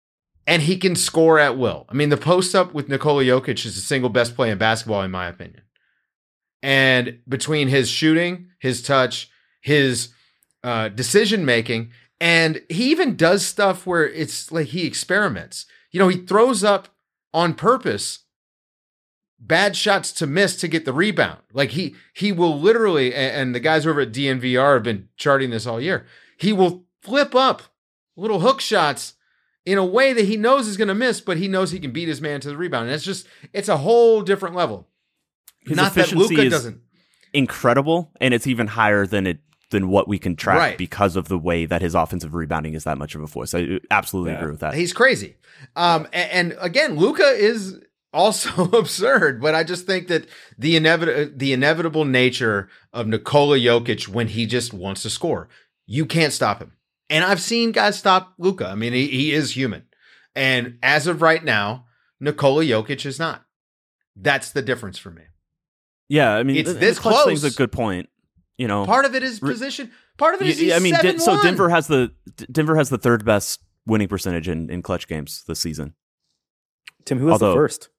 and he can score at will. I mean, the post up with Nikola Jokic is the single best play in basketball, in my opinion. And between his shooting, his touch, his uh, decision making, and he even does stuff where it's like he experiments. You know, he throws up on purpose bad shots to miss to get the rebound. Like he he will literally, and the guys over at D N V R have been charting this all year, he will flip up little hook shots in a way that he knows is going to miss, but he knows he can beat his man to the rebound. And it's just, it's a whole different level. His Not that efficiency Luka is doesn't. incredible, and it's even higher than it than what we can track Right. because of the way that his offensive rebounding is that much of a force. I absolutely Yeah. agree with that. He's crazy. Um, and, and again, Luka is also absurd, but I just think that the inevitable, the inevitable nature of Nikola Jokic when he just wants to score, you can't stop him. And I've seen guys stop Luka. I mean, he, he is human. And as of right now, Nikola Jokic is not. That's the difference for me. Yeah, I mean, It's the, this the clutch close. thing's a good point. You know, Part of it is position. Part of it is Yeah, he's I mean, seven Den- so one. Denver has the D- Denver has the third best winning percentage in, in clutch games this season. Tim, who was Although- the first?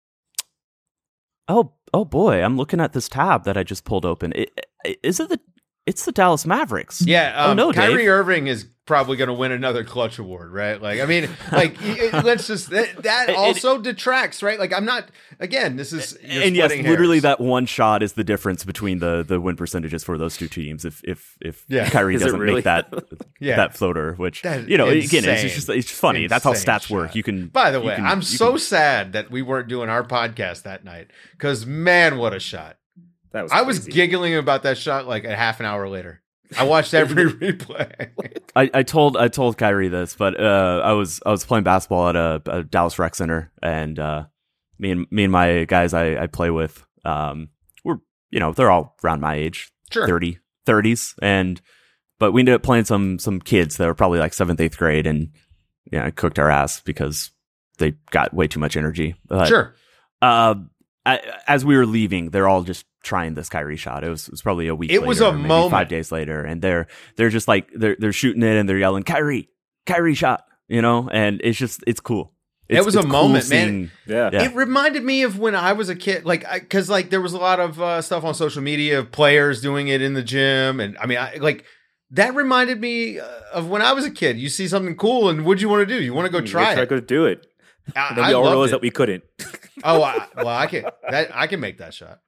Oh, oh boy, I'm looking at this tab that I just pulled open. It, it, is it the? It's the Dallas Mavericks. Yeah, um, oh no, Kyrie Dave. Irving is probably going to win another clutch award, right? Like, I mean, like, y- y- let's just that, that It- also detracts, right? Like, I'm not. Again, this is you're and yes, splitting literally hairs. that one shot is the difference between the the win percentages for those two teams. If if if Yeah. Kyrie Is it doesn't really? make that Yeah. that floater, which That is you know, again, it's insane. just, just it's funny. That's how Insane stats work. shot. You can. By the you way, can- I'm you so can- sad that we weren't doing our podcast that night because man, what a shot! That was I was crazy. giggling about that shot like a half an hour later. I watched every replay. I, I told I told Kyrie this, but uh, I was I was playing basketball at a, a Dallas Rec Center, and uh, me and me and my guys I, I play with, um, we're you know they're all around my age, Sure. thirty, thirties, and but we ended up playing some some kids that were probably like seventh, eighth grade, and yeah, I cooked our ass because they got way too much energy. But, Sure. Uh, I, as we were leaving, they're all just trying this Kyrie shot. It was, it was probably a week. It was later, a or maybe moment. five days later, and they're they're just like they're they're shooting it and they're yelling Kyrie, Kyrie shot, you know, and it's just it's cool. It's, It was a it's cool moment, man. seeing- Yeah. Yeah. It reminded me of when I was a kid, like, because like there was a lot of uh, stuff on social media of players doing it in the gym, and I mean, I, like that reminded me uh, of when I was a kid. You see something cool, and what'd you want to do? You want to go try Try it? to do it. I, And then I we all loved realized it. that we couldn't. Oh, I, well, I can that I can make that shot.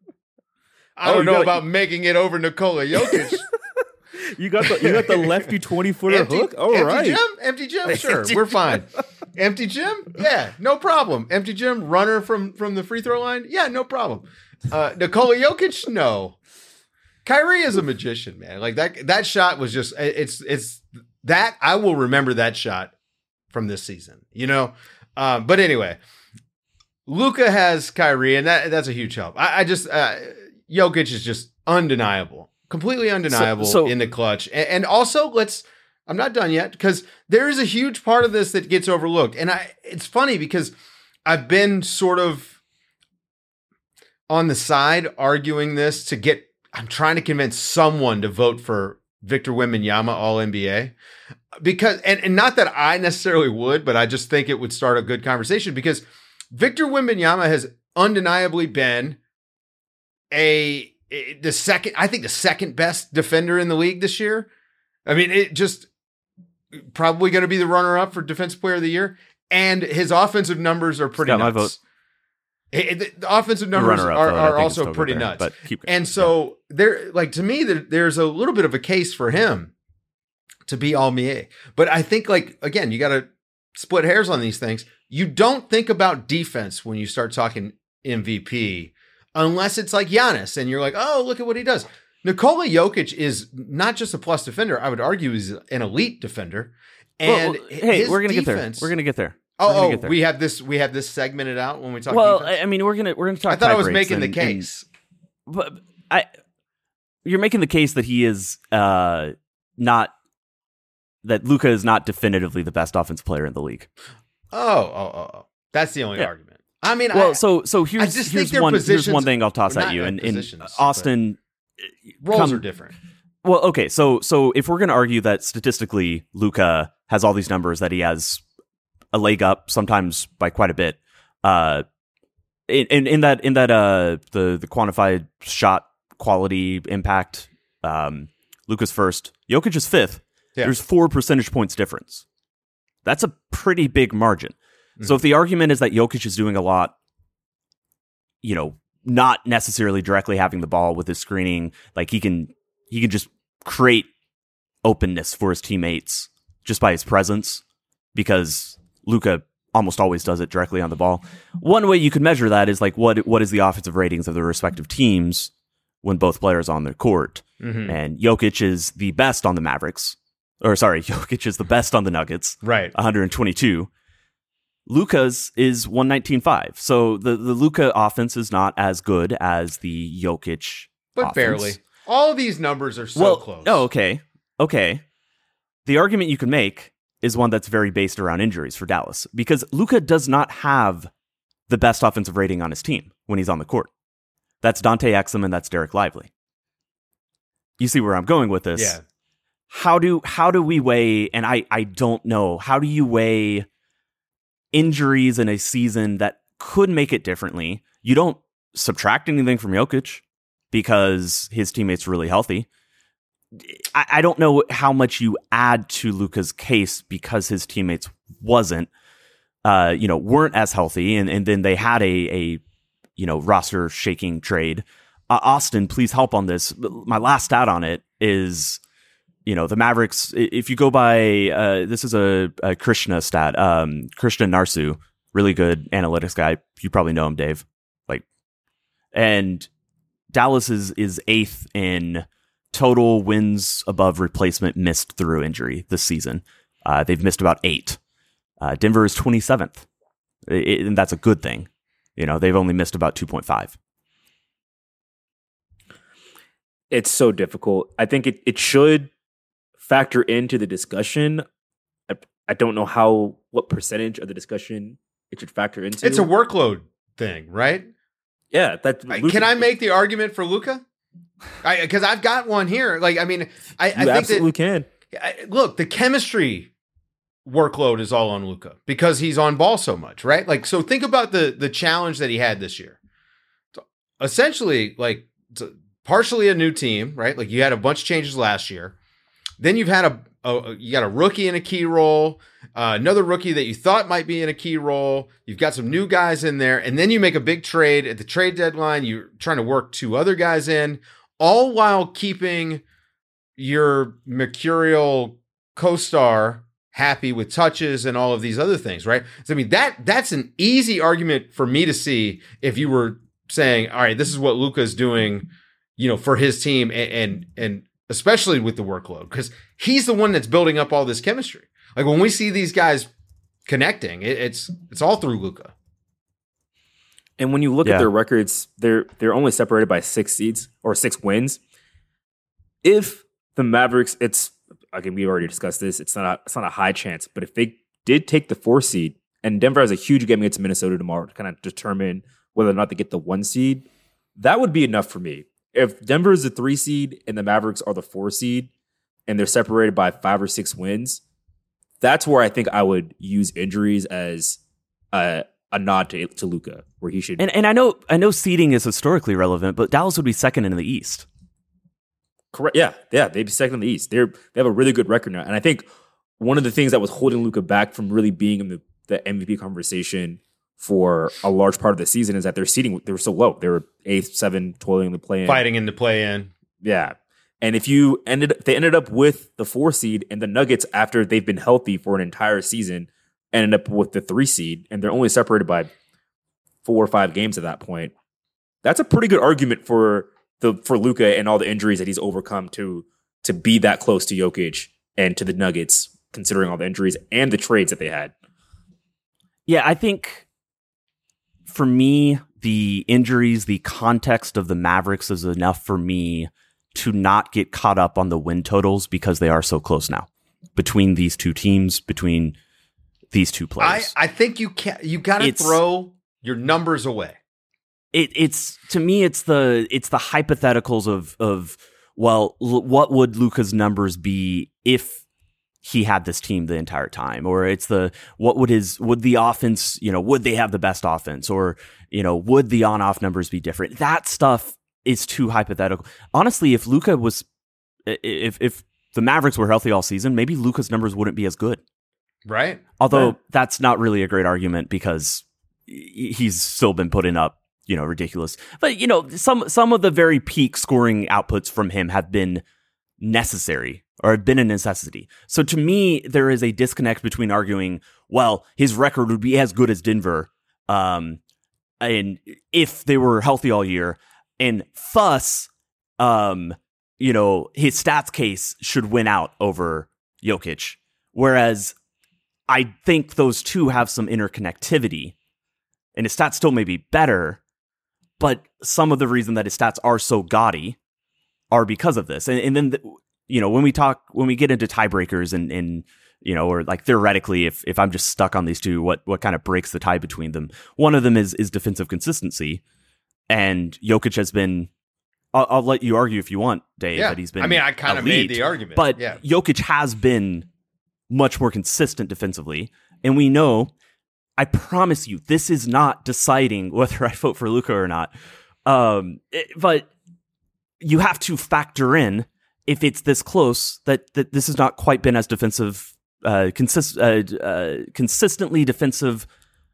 I Oh, don't you know got- about making it over Nikola Jokic. You got the you got the lefty twenty footer empty, hook. All empty right. gym, empty gym. Sure, Empty we're fine. Empty gym, yeah, no problem. Empty gym, runner from from the free throw line, yeah, no problem. Uh, Nikola Jokic, no. Kyrie is a magician, man. Like that that shot was just it's it's that I will remember that shot from this season. You know, um, but anyway, Luka has Kyrie, and that that's a huge help. I, I just uh, Jokic is just undeniable, completely undeniable so- in the clutch, and, and also let's. I'm not done yet because there is a huge part of this that gets overlooked, and I. It's funny because I've been sort of on the side arguing this to get. I'm trying to convince someone to vote for Victor Wembanyama All N B A because, and, and not that I necessarily would, but I just think it would start a good conversation because Victor Wembanyama has undeniably been a the second, I think the second best defender in the league this year. I mean, it just probably going to be the runner up for Defensive Player of the Year, and his offensive numbers are pretty got my nuts. vote. It- it- the offensive The numbers runner-up are, vote, I are think, is also still pretty good there, nuts. But keep, And so there, like to me, there, there's a little bit of a case for him to be All N B A. But I think, like again, you got to split hairs on these things. You don't think about defense when you start talking M V P, unless it's like Giannis, and you're like, oh, look at what he does. Nikola Jokic is not just a plus defender. I would argue he's an elite defender. And well, hey, his we're gonna get there. defense- We're gonna get there. We're gonna Oh, oh, get there. we have this. We have this segmented out when we talk. Well, defense? I mean, we're gonna we're gonna talk. I thought I was tie making breaks the and- and- case. but I, you're making the case that he is uh, not that Luka is not definitively the best offensive player in the league. Oh, oh, oh, oh. That's the only Yeah. argument. I mean, Well, I, so so here's just think here's their one here's positions one thing I'll toss are at not you, like and, and positions, Austin roles come- are different. Well, okay, so so if we're going to argue that statistically Luka has all these numbers that he has a leg up, sometimes by quite a bit. Uh, in, in, in that, in that, uh, the, the quantified shot quality impact, um, Luka's first, Jokic is fifth. Yeah. There's four percentage points difference. That's a pretty big margin. Mm-hmm. So if the argument is that Jokic is doing a lot, you know, not necessarily directly having the ball with his screening, like he can, he can just create openness for his teammates just by his presence, because Luka almost always does it directly on the ball. One way you could measure that is like what what is the offensive ratings of the respective teams when both players are on their court. Mm-hmm. And Jokic is the best on the Mavericks. Or sorry, Jokic is the best on the Nuggets. Right. one twenty-two. Luka's is one nineteen point five. So the, the Luka offense is not as good as the Jokic But offense. barely. All of these numbers are so well, close. Oh, okay. Okay. The argument you can make is one that's very based around injuries for Dallas, because Luka does not have the best offensive rating on his team when he's on the court. That's Dante Exum and that's Derek Lively. You see where I'm going with this? Yeah. How do how do we weigh, and I, I don't know, how do you weigh injuries in a season that could make it differently? You don't subtract anything from Jokic because his teammate's really healthy. I, I don't know how much you add to Luka's case because his teammates wasn't, uh, you know, weren't as healthy, and, and then they had a, a, you know, roster shaking trade. Uh, Austin, please help on this. My last stat on it is, you know, the Mavericks, if you go by, uh, this is a, a Krishna stat, um, Krishna Narsu, really good analytics guy. You probably know him, Dave. Like, and Dallas is, is eighth in total wins above replacement missed through injury this season. Uh, they've missed about eight. Uh, Denver is twenty-seventh, it, and that's a good thing. You know, they've only missed about two point five. It's so difficult. I think it, it should factor into the discussion. I, I don't know how, what percentage of the discussion it should factor into. It's a workload thing, right? Yeah. That, I, Luka, can I make the argument for Luka? Because I've got one here. Like, I mean, I, I you think absolutely that, can. I, look, the chemistry workload is all on Luka because he's on ball so much, right? Like, so think about the the challenge that he had this year. So essentially, like, partially a new team, right? Like, you had a bunch of changes last year. Then you've had a, a you got a rookie in a key role, uh, another rookie that you thought might be in a key role. You've got some new guys in there, and then you make a big trade at the trade deadline. You're trying to work two other guys in, all while keeping your mercurial co-star happy with touches and all of these other things, right? So, I mean, that that's an easy argument for me to see if you were saying, all right, this is what Luka's doing, you know, for his team, and and, and especially with the workload, because he's the one that's building up all this chemistry. Like, when we see these guys connecting, it, it's it's all through Luka. And when you look Yeah. at their records, they're they're only separated by six seeds or six wins. If the Mavericks, it's again, we already discussed this. It's not a, it's not a high chance, but if they did take the four seed, and Denver has a huge game against Minnesota tomorrow to kind of determine whether or not they get the one seed, that would be enough for me. If Denver is the three seed and the Mavericks are the four seed, and they're separated by five or six wins, that's where I think I would use injuries as a, a nod to, to Luka, where he should. And and I know I know seeding is historically relevant, but Dallas would be second in the East. Correct. Yeah, yeah, they'd be second in the East. They're they have a really good record now, and I think one of the things that was holding Luka back from really being in the, the M V P conversation for a large part of the season is that their seeding, they were so low. They were eighth, seven, toiling in the play-in, Fighting in the play-in. Yeah, and if you ended, they ended up with the four seed, and the Nuggets, after they've been healthy for an entire season, ended up with the three seed, and they're only separated by four or five games at that point. That's a pretty good argument for the for Luka and all the injuries that he's overcome to to be that close to Jokic and to the Nuggets, considering all the injuries and the trades that they had. Yeah, I think for me, the injuries, the context of the Mavericks is enough for me to not get caught up on the win totals because they are so close now between these two teams, between these two I, players. I think you can you got to It's- throw your numbers away. It, it's to me, it's the it's the hypotheticals of of well, l- what would Luka's numbers be if he had this team the entire time, or it's the what would his would the offense, you know, would they have the best offense, or you know, would the on-off numbers be different? That stuff is too hypothetical. Honestly, if Luka was, if if the Mavericks were healthy all season, maybe Luka's numbers wouldn't be as good. Right. Although Yeah. that's not really a great argument because he's still been putting up, you know, ridiculous. But, you know, some some of the very peak scoring outputs from him have been necessary or have been a necessity. So to me, there is a disconnect between arguing, well, his record would be as good as Denver um, and if they were healthy all year, and thus, um, you know, his stats case should win out over Jokic. Whereas I think those two have some interconnectivity, and his stats still may be better, but some of the reason that his stats are so gaudy are because of this. And, and then, the, you know, when we talk, when we get into tiebreakers and, and, you know, or like theoretically, if, if I'm just stuck on these two, what, what kind of breaks the tie between them? One of them is, is defensive consistency. And Jokic has been, I'll, I'll let you argue if you want, Dave, Yeah. that he's been I mean, I kind of elite, made the argument. but yeah. Jokic has been much more consistent defensively. And we know, I promise you, this is not deciding whether I vote for Luka or not. Um, it- but you have to factor in, if it's this close, that, that this has not quite been as defensive, uh, consist, uh, uh, consistently defensive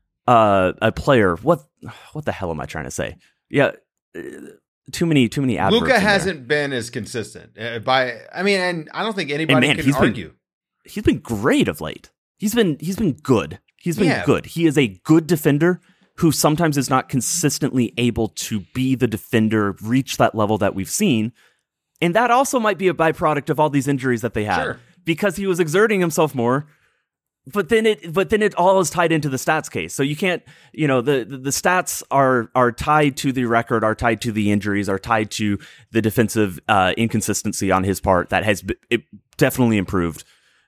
uh, a player. What what the hell am I trying to say? Yeah, uh, too many too many adverbs. Luka in there. hasn't been as consistent uh, by. I mean, and I don't think anybody man, can he's been- argue. He's been great of late. He's been he's been good. He's been Yeah. good. He is a good defender who sometimes is not consistently able to be the defender, reach that level that we've seen. And that also might be a byproduct of all these injuries that they had. Sure. Because he was exerting himself more. But then it but then it all is tied into the stats case. So you can't, you know, the, the, the stats are are tied to the record, are tied to the injuries, are tied to the defensive uh, inconsistency on his part that has b- it definitely improved.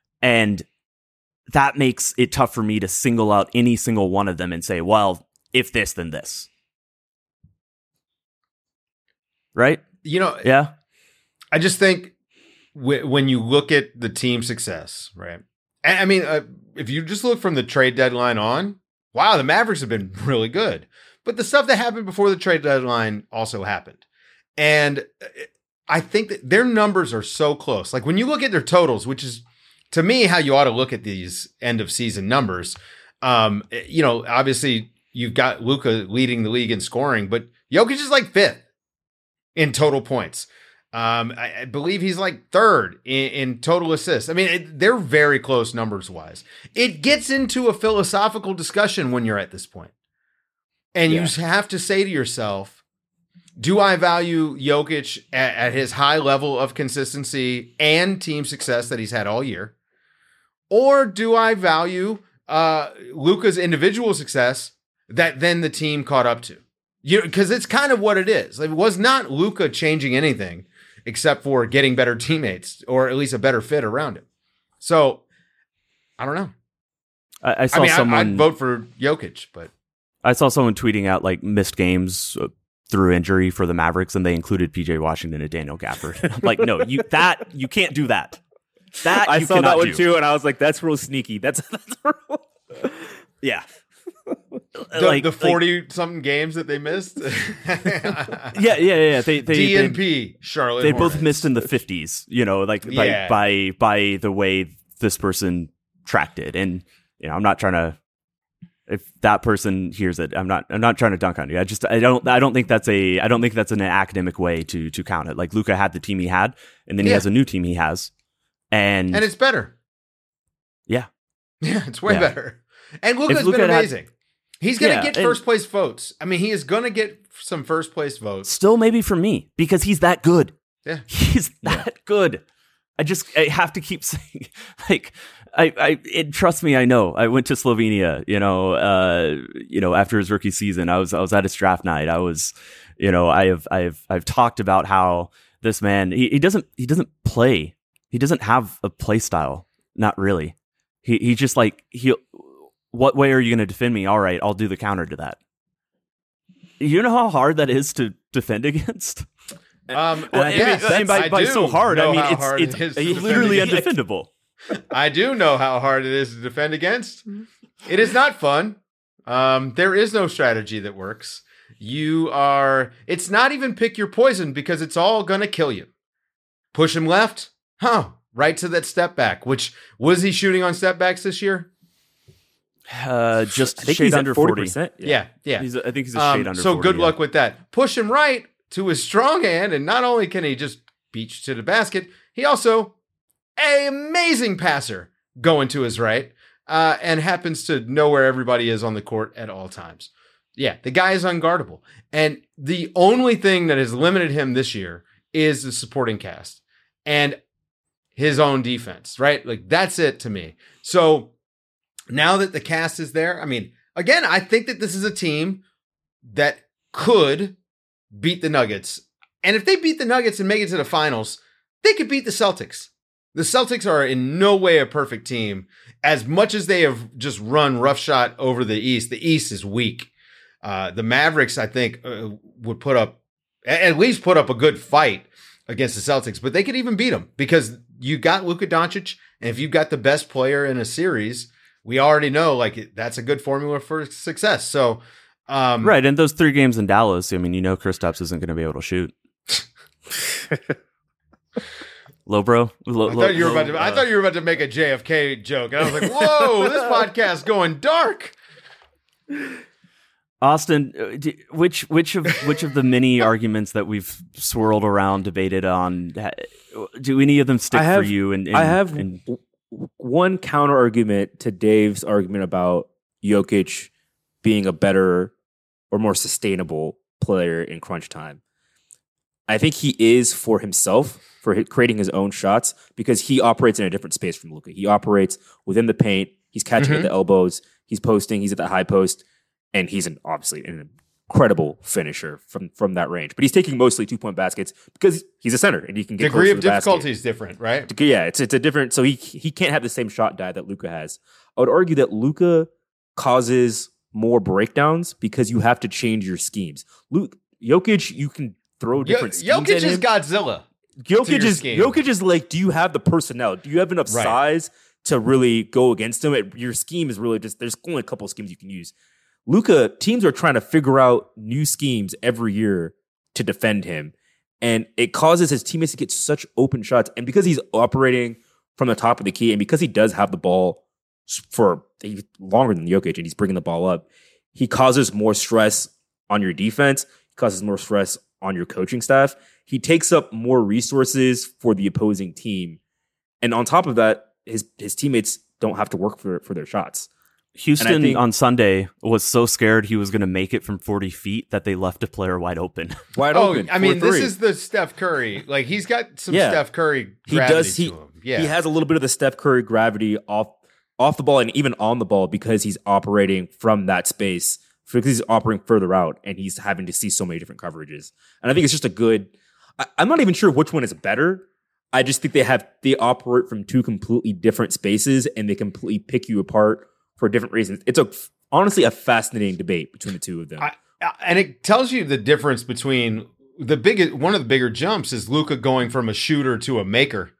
And that makes it tough for me to single out any single one of them and say, well, if this, then this. Right? You know, Yeah. I just think w- when you look at the team success, right? And I mean, uh, if you just look from the trade deadline on, wow, the Mavericks have been really good. But the stuff that happened before the trade deadline also happened. And I think that their numbers are so close. Like when you look at their totals, which is to me how you ought to look at these end of season numbers. Um, you know, obviously you've got Luka leading the league in scoring, but Jokic is like fifth in total points. Um, I, I believe he's like third in, in total assists. I mean, it, they're very close numbers wise. It gets into a philosophical discussion when you're at this point. And Yeah. you have to say to yourself, do I value Jokic at, at his high level of consistency and team success that he's had all year? Or do I value uh, Luka's individual success that then the team caught up to? You because it's kind of what it is. It was not Luka changing anything except for getting better teammates or at least a better fit around him. So I don't know. I, I saw I mean, someone I, I'd vote for Jokic, but I saw someone tweeting out like missed games uh, through injury for the Mavericks, and they included P J Washington and Daniel Gafford. I'm like, no, you that you can't do that. That I you saw cannot that one do. too, and I was like, "That's real sneaky." That's that's real. Yeah, the, like the like- forty something games that they missed. yeah, yeah, yeah. They they D they, N P Charlotte. they both Hornets. missed in the fifties. You know, like by Yeah. by by the way this person tracked it, and you know, I'm not trying to. If that person hears it, I'm not. I'm not trying to dunk on you. I just. I don't. I don't think that's a. I don't think that's an academic way to to count it. Like Luka had the team he had, and then he Yeah. has a new team he has, and, And it's better. yeah, Yeah, it's way Yeah. better. And Luka's Luka been had- amazing. He's going to Yeah, get and- first place votes. I mean, he is going to get some first place votes. still maybe for me because he's that good. Yeah. He's that good. I just I have to keep saying like I I it, trust me, I know. I went to Slovenia, you know, uh you know, after his rookie season. I was I was at his draft night. I was, you know, I have I have I've talked about how this man he, he doesn't he doesn't play. He doesn't have a play style. Not really. He he just like he what way are you going to defend me? All right, I'll do the counter to that. You know how hard that is to defend against? Um, Well, yes, and by, I by do so hard, I know mean how it's hard it's it is to defend literally against. undefendable. I do know how hard it is to defend against. It is not fun. Um, there is no strategy that works. You are, it's not even pick your poison because it's all going to kill you. Push him left. Huh. Right to that step back, which was he shooting on step backs this year? Uh, just I think shade he's under at forty forty. percent. Yeah. Yeah. He's, I think he's a Um, shade under so forty. good yeah. luck with that. Push him right to his strong hand. And not only can he just beach to the basket, he also an amazing passer going to his right uh, and happens to know where everybody is on the court at all times. Yeah, the guy is unguardable. And the only thing that has limited him this year is the supporting cast and his own defense, right? Like, that's it to me. So now that the cast is there, I mean, again, I think that this is a team that could beat the Nuggets. And if they beat the Nuggets and make it to the finals, they could beat the Celtics. The Celtics are in no way a perfect team. As much as they have just run roughshod over the East, the East is weak. Uh, the Mavericks, I think, uh, would put up, at least put up a good fight against the Celtics, but they could even beat them because you got Luka Doncic. And if you've got the best player in a series, we already know like that's a good formula for success. So, um, Right. And those three games in Dallas, I mean, you know, Kristaps isn't going to be able to shoot. Low, bro. Low, I thought you were about to. I thought you were about to make a J F K joke, and I was like, "Whoa, this podcast's going dark." Austin, uh, d- which which of which of the many arguments that we've swirled around, debated on, ha- do any of them stick I have- for you? And, and I have and, w- one counter argument to Dave's argument about Jokic being a better or more sustainable player in crunch time. I think he is for himself, for hi- creating his own shots, because he operates in a different space from Luka. He operates within the paint. He's catching Mhm. at the elbows. He's posting. He's at the high post. And he's an, obviously an incredible finisher from, from that range. But he's taking mostly two-point baskets because he's a center and he can get Degree close of to the basket. difficulty is different, right? Yeah, it's it's a different. So he he can't have the same shot die that Luka has. I would argue that Luka causes more breakdowns because you have to change your schemes. Luke Jokic, you can throw different Yo- schemes. Jokic at is him. Godzilla. to Jokic your is scheme. Jokic is like, do you have the personnel? Do you have enough Right. size to really go against him? It, your scheme is really just there's only a couple of schemes you can use. Luka, teams are trying to figure out new schemes every year to defend him. And it causes his teammates to get such open shots. And because he's operating from the top of the key and because he does have the ball for he's longer than Jokic and he's bringing the ball up, he causes more stress on your defense. He causes more stress on your coaching staff. He takes up more resources for the opposing team. And on top of that, his his teammates don't have to work for, for their shots. Houston think- on Sunday was so scared he was going to make it from forty feet that they left a player wide open. Wide Oh, open. I mean, four this three. is the Steph Curry. Like he's got some Yeah. Steph Curry he gravity does he to him. Yeah, he has a little bit of the Steph Curry gravity off off the ball and even on the ball because he's operating from that space because he's operating further out and he's having to see so many different coverages. And I think it's just a good. I, I'm not even sure which one is better. I just think they have they operate from two completely different spaces and they completely pick you apart for different reasons. It's a honestly a fascinating debate between the two of them. I, and it tells you the difference between the biggest. One of the bigger jumps is Luka going from a shooter to a maker.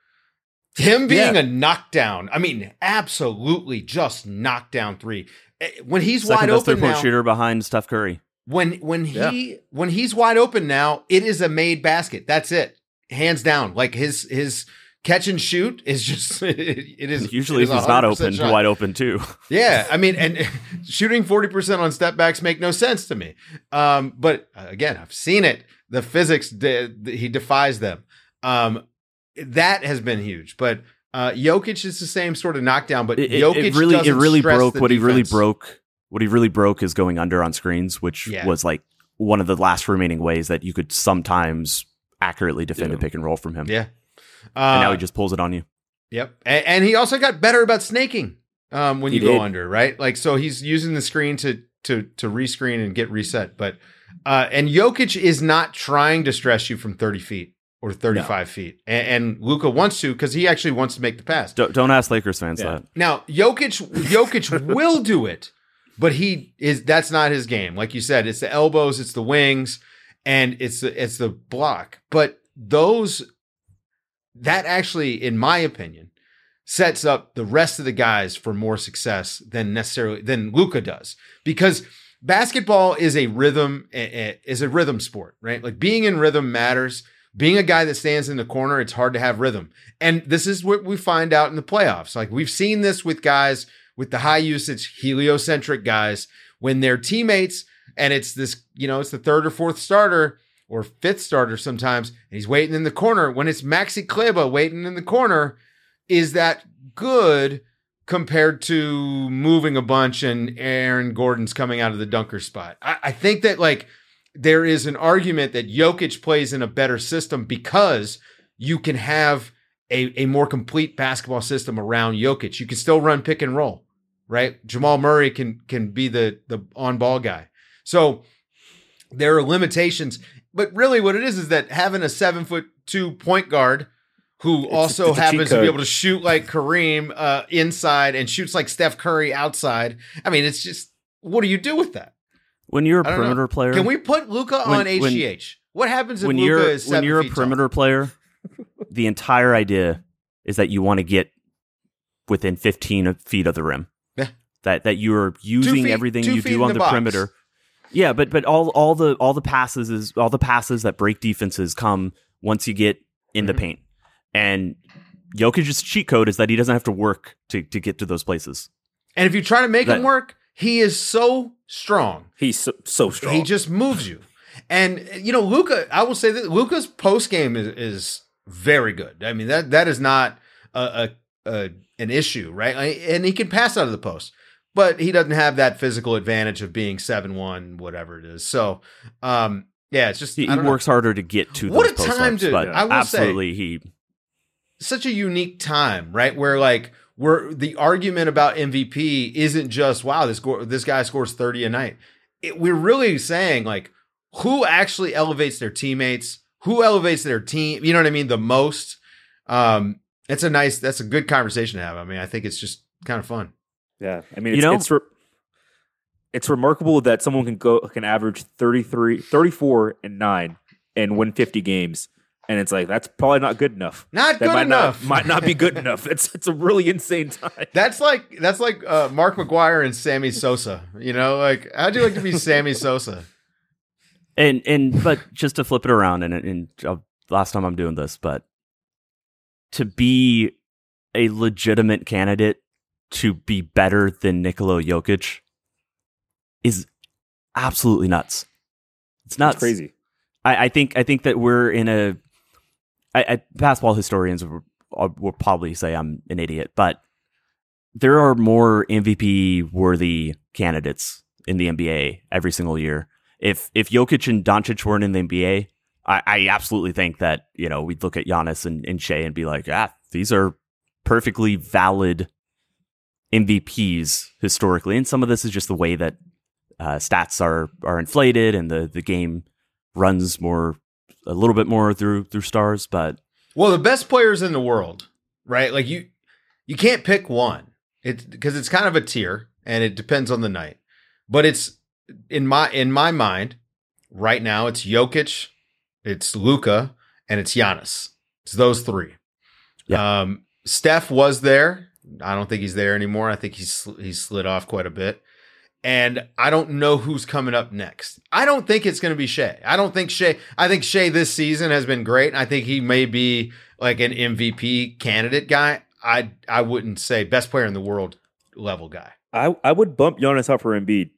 Him being Yeah. a knockdown. I mean, absolutely just knockdown three. Eh, When he's Second wide best open three-point now, shooter behind Steph Curry. when when he Yeah. when he's wide open now, it is a made basket. That's it, hands down. Like his his catch and shoot is just it, it is Usually, it if is he's not one hundred percent open, shot. wide open too. Yeah, I mean, and shooting forty percent on step backs make no sense to me. Um, but uh, again, I've seen it. The physics, de- he defies them. Um, that has been huge. But uh, Jokic is the same sort of knockdown. But It, it- Jokic it really, it doesn't really stress broke the what he really defense. broke. What he really broke is going under on screens, which Yeah. was like one of the last remaining ways that you could sometimes accurately defend Yeah. a pick and roll from him. Yeah. And now Uh, he just pulls it on you. Yep. And, and he also got better about snaking um, when He you go did. under, right? Like, so he's using the screen to to to rescreen and get reset. But uh, and Jokic is not trying to stress you from thirty feet or thirty-five feet. And, and Luka wants to because he actually wants to make the pass. Don't, don't ask Lakers fans Yeah. that. Now, Jokic Jokic will do it, but he is that's not his game. Like you said, it's the elbows, it's the wings, and it's the it's the block. But those that actually, in my opinion, sets up the rest of the guys for more success than necessarily than Luka does, because basketball is a rhythm is a rhythm sport, right? Like being in rhythm matters. Being a guy that stands in the corner, it's hard to have rhythm. And this is what we find out in the playoffs. Like we've seen this with guys with the high usage heliocentric guys when their teammates, and it's this, you know, it's the third or fourth starter or fifth starter sometimes, and he's waiting in the corner. When it's Maxi Kleber waiting in the corner, is that good compared to moving a bunch and Aaron Gordon's coming out of the dunker spot? I, I think that like there is an argument that Jokic plays in a better system because you can have a, a more complete basketball system around Jokic. You can still run pick and roll, right? Jamal Murray can can be the, the on-ball guy. So there are limitations. But really what it is is that having a seven foot two point guard who It's- also it's a cheat happens to be code. able to shoot like Kareem uh, inside and shoots like Steph Curry outside. I mean, it's just, what do you do with that? When you're a I don't know. perimeter player, Can we put Luka When- on H G H? What happens if when Luka you're is seven when you're a feet perimeter player, the entire idea is that you want to get within fifteen feet of the rim. Yeah. That that you're using feet- everything two you feet in do on the the, box. perimeter. Yeah, but but all all the all the passes is all the passes that break defenses come once you get in the Mhm. paint. And Jokic's cheat code is that he doesn't have to work to to get to those places. And if you try to make That- him work, he is so strong. He's so, so strong. He just moves you. And you know, Luka, I will say that Luka's post game is, is very good. I mean, that that is not a, a, a an issue, right? And he can pass out of the post, but he doesn't have that physical advantage of being seven one, whatever it is. So, um, yeah, it's just He, I he don't know. works harder to get to What those a time post-ups, to- but I will absolutely he Such a unique time, right? Where like where the argument about M V P isn't just wow, this go- this guy scores thirty a night. It, we're really saying like who actually elevates their teammates, who elevates their team. You know what I mean? The most. Um, it's a nice. That's a good conversation to have. I mean, I think it's just kind of fun. Yeah, I mean, You it's, know- it's, re- it's remarkable that someone can go can average thirty-three, thirty-four and nine and win fifty games, and it's like that's probably not good enough. Not That good might enough. not might not be good enough. It's it's a really insane time. That's like that's like uh, Mark McGuire and Sammy Sosa. You know, like how'd you like to be Sammy Sosa? and and but just to flip it around and and uh, last time I'm doing this, but to be a legitimate candidate to be better than Nikola Jokic is absolutely nuts. It's nuts. It's crazy. I, I think I think that we're in a. I, I, basketball historians will, will probably say I'm an idiot, but there are more M V P worthy candidates in the N B A every single year. If if Jokic and Doncic weren't in the N B A, I, I absolutely think that you know we'd look at Giannis and, and Shea and be like, ah, these are perfectly valid M V Ps historically. And some of this is just the way that uh, stats are are inflated and the the game runs more a little bit more through through stars. But Well, the best players in the world, right? Like you, you can't pick one. It's because it's kind of a tier, and it depends on the night. But it's in my in my mind right now. It's Jokic, it's Luka, and it's Giannis. It's those three. Yeah. Um, Steph was there. I don't think he's there anymore. I think he's he's slid off quite a bit. And I don't know who's coming up next. I don't think it's going to be Shea. I don't think Shea. I think Shea this season has been great. I think he may be like an M V P candidate guy. I I wouldn't say best player in the world level guy. I I would bump Giannis out for Embiid.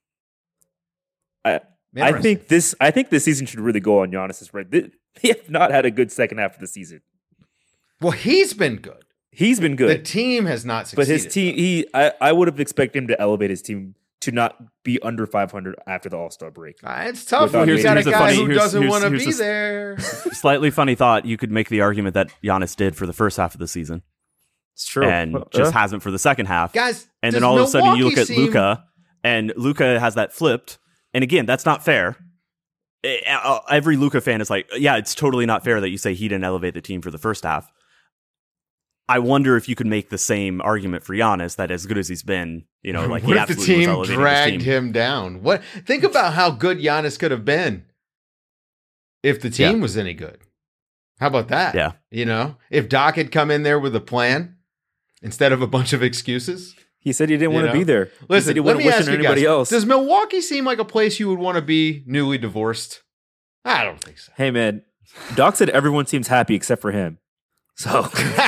I I Interesting. think this I think this season should really go on Giannis's right. They they have not had a good second half of the season. Well, he's been good. He's been The good, team has not but succeeded. his team he I, I would have expected him to elevate his team to not be under five hundred after the All-Star break. Uh, it's tough Without when you Here's- got a here's the guy funny- who here's- doesn't here's- want to here's be the- there. slightly funny thought, you could make the argument that Giannis did for the first half of the season It's true. and Well, just uh, hasn't for the second half. Guys, And does then all of a sudden you Milwaukee look at seem- Luka, and Luka has that flipped. And again, that's not fair. Eh, uh, Every Luka fan is like, yeah, it's totally not fair that you say he didn't elevate the team for the first half. I wonder if you could make the same argument for Giannis that as good as he's been, you know, like what he if the absolutely was team elevating his dragged team. him down? What? Think about how good Giannis could have been if the team Yeah. was any good. How about that? Yeah. You know, if Doc had come in there with a plan, instead of a bunch of excuses. He said he didn't You want know? to be there. He Listen, said he let wouldn't me wish ask it on you anybody guys, else. does Milwaukee seem like a place you would want to be newly divorced? I don't think so. Hey, man. Doc said everyone seems happy except for him. So,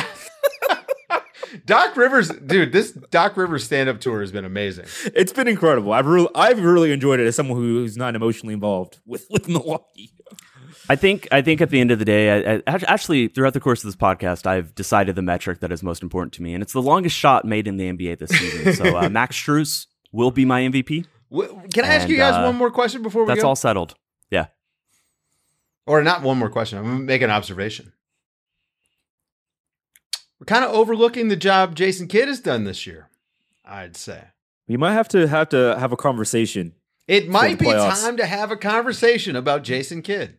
Doc Rivers, dude, this Doc Rivers stand-up tour has been amazing. it's been incredible. I've really, I've really enjoyed it as someone who's not emotionally involved with, with Milwaukee. I think I think at the end of the day, I, I, actually throughout the course of this podcast, I've decided the metric that is most important to me, and it's the longest shot made in the N B A this season. So uh, Max Strus will be my M V P. Can I ask And, you guys uh, one more question before we That's go? all settled. Yeah. Or not one more question. I'm going to make an observation. We're kind of overlooking the job Jason Kidd has done this year, I'd say. We might have to have to have a conversation. It might the be playoffs. time to have a conversation about Jason Kidd.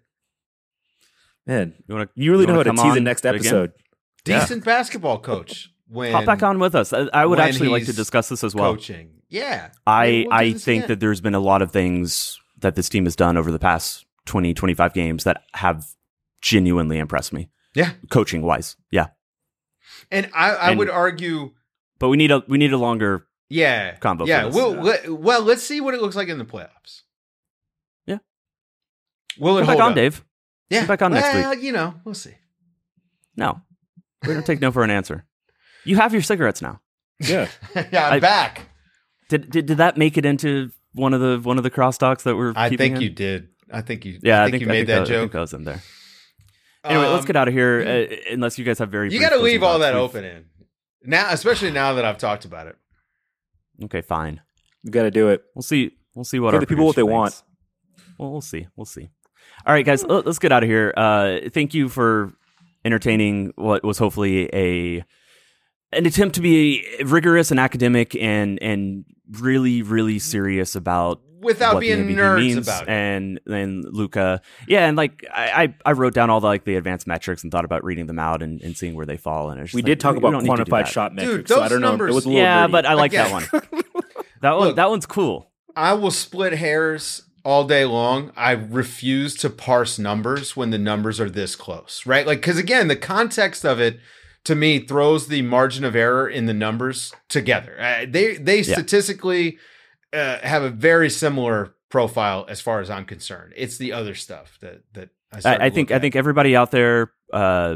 Man, You want to you really You know how wanna to come tease the on next again? episode. Yeah. Decent basketball coach. When hop back on with us? I, I would when actually like to he's discuss this as well. coaching. Yeah. I, Maybe we'll do I this think again. that there's been a lot of things that this team has done over the past twenty, twenty-five games that have genuinely impressed me. Yeah. Coaching wise. Yeah. And I, I And- would argue, But we need a we need a longer yeah. combo for Yeah. this. We'll, let, well, let's see what it looks like in the playoffs. Yeah. Will it Come hold back on, up? Dave. Yeah. Come back on next well, you know, we'll see. No. We don't take no for an answer. You have your cigarettes now. Yeah. yeah, I'm I- back. Did, did did that make it into one of the one of the cross talks that we're I keeping think in? you did. I think you. Yeah, I think, you I made think that I, I think joke. I was in there. Anyway, let's Um, get out of here. Uh, unless you guys have very. You brief got to closing leave all thoughts. that We've- open in now, especially now that I've talked about it. Okay, fine. We got to do it. We'll see. We'll see what Give our the people what they producer want. thinks. Well, we'll see. We'll see. All right, guys, let- let's get out of here. Uh, thank you for entertaining what was hopefully a an attempt to be rigorous and academic and and really really serious about Without what the being M V P nerds means about it. and then Luca, yeah, and like I, I I wrote down all the like the advanced metrics and thought about reading them out and, and seeing where they fall. And it's just We like, did talk we about don't need to do quantified that. shot Dude, metrics. so I those don't know. numbers- It was a little Yeah, nerdy. but I like Again. that one. That one Look. that one's cool. I will split hairs all day long. I refuse to parse numbers when the numbers are this close, right? Like, because again, the context of it to me throws the margin of error in the numbers together. Uh, they they Yeah. statistically uh, have a very similar profile as far as I'm concerned. It's the other stuff that that I, start I, I to think look I at. think everybody out there, uh,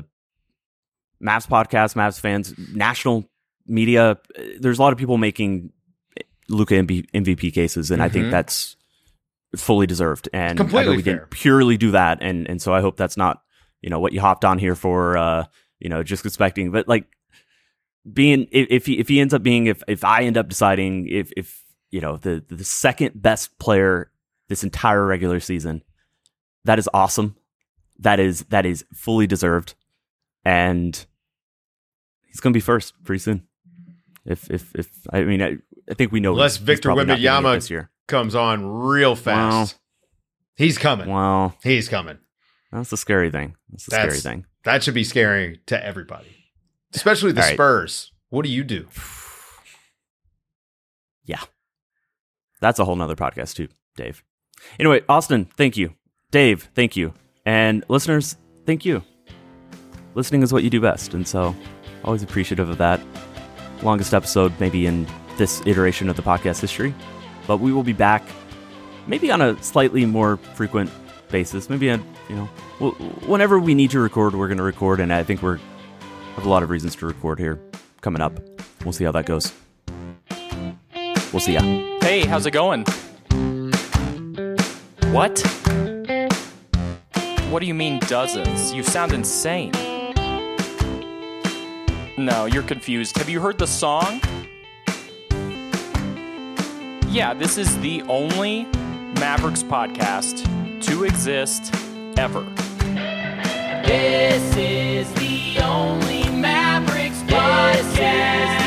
Mavs podcast, Mavs fans, national media. uh, There's a lot of people making Luka M V P cases, and I think Mhm. that's fully deserved. And Completely I know we fair. didn't purely do that, and and so I hope that's not you know what you hopped on here for. Uh, you know, just expecting, but like being if if he, if he ends up being if if I end up deciding if if you know the the second best player this entire regular season, that is awesome. That is that is fully deserved, and he's going to be first pretty soon. If if if I mean I, I think we know Unless he's Victor probably not getting it Wembanyama this year. comes on real fast. He's coming. Well, He's coming. that's the scary thing. That's the That's- scary thing. That should be scary to everybody, especially the All right. Spurs. What do you do? Yeah, that's a whole nother podcast too, Dave. Anyway, Austin, thank you. Dave, thank you. And listeners, thank you. Listening is what you do best, and so always appreciative of that. Longest episode maybe in this iteration of the podcast history, but we will be back maybe on a slightly more frequent basis. Maybe a, you know, wh- whenever we need to record, we're going to record, and I think we're have a lot of reasons to record here coming up. We'll see how that goes. We'll see ya. Hey, how's it going? What? What do you mean dozens? You sound insane. No, you're confused. Have you heard the song? Yeah, this is the only Mavericks podcast to exist ever. This is the only Mavericks podcast.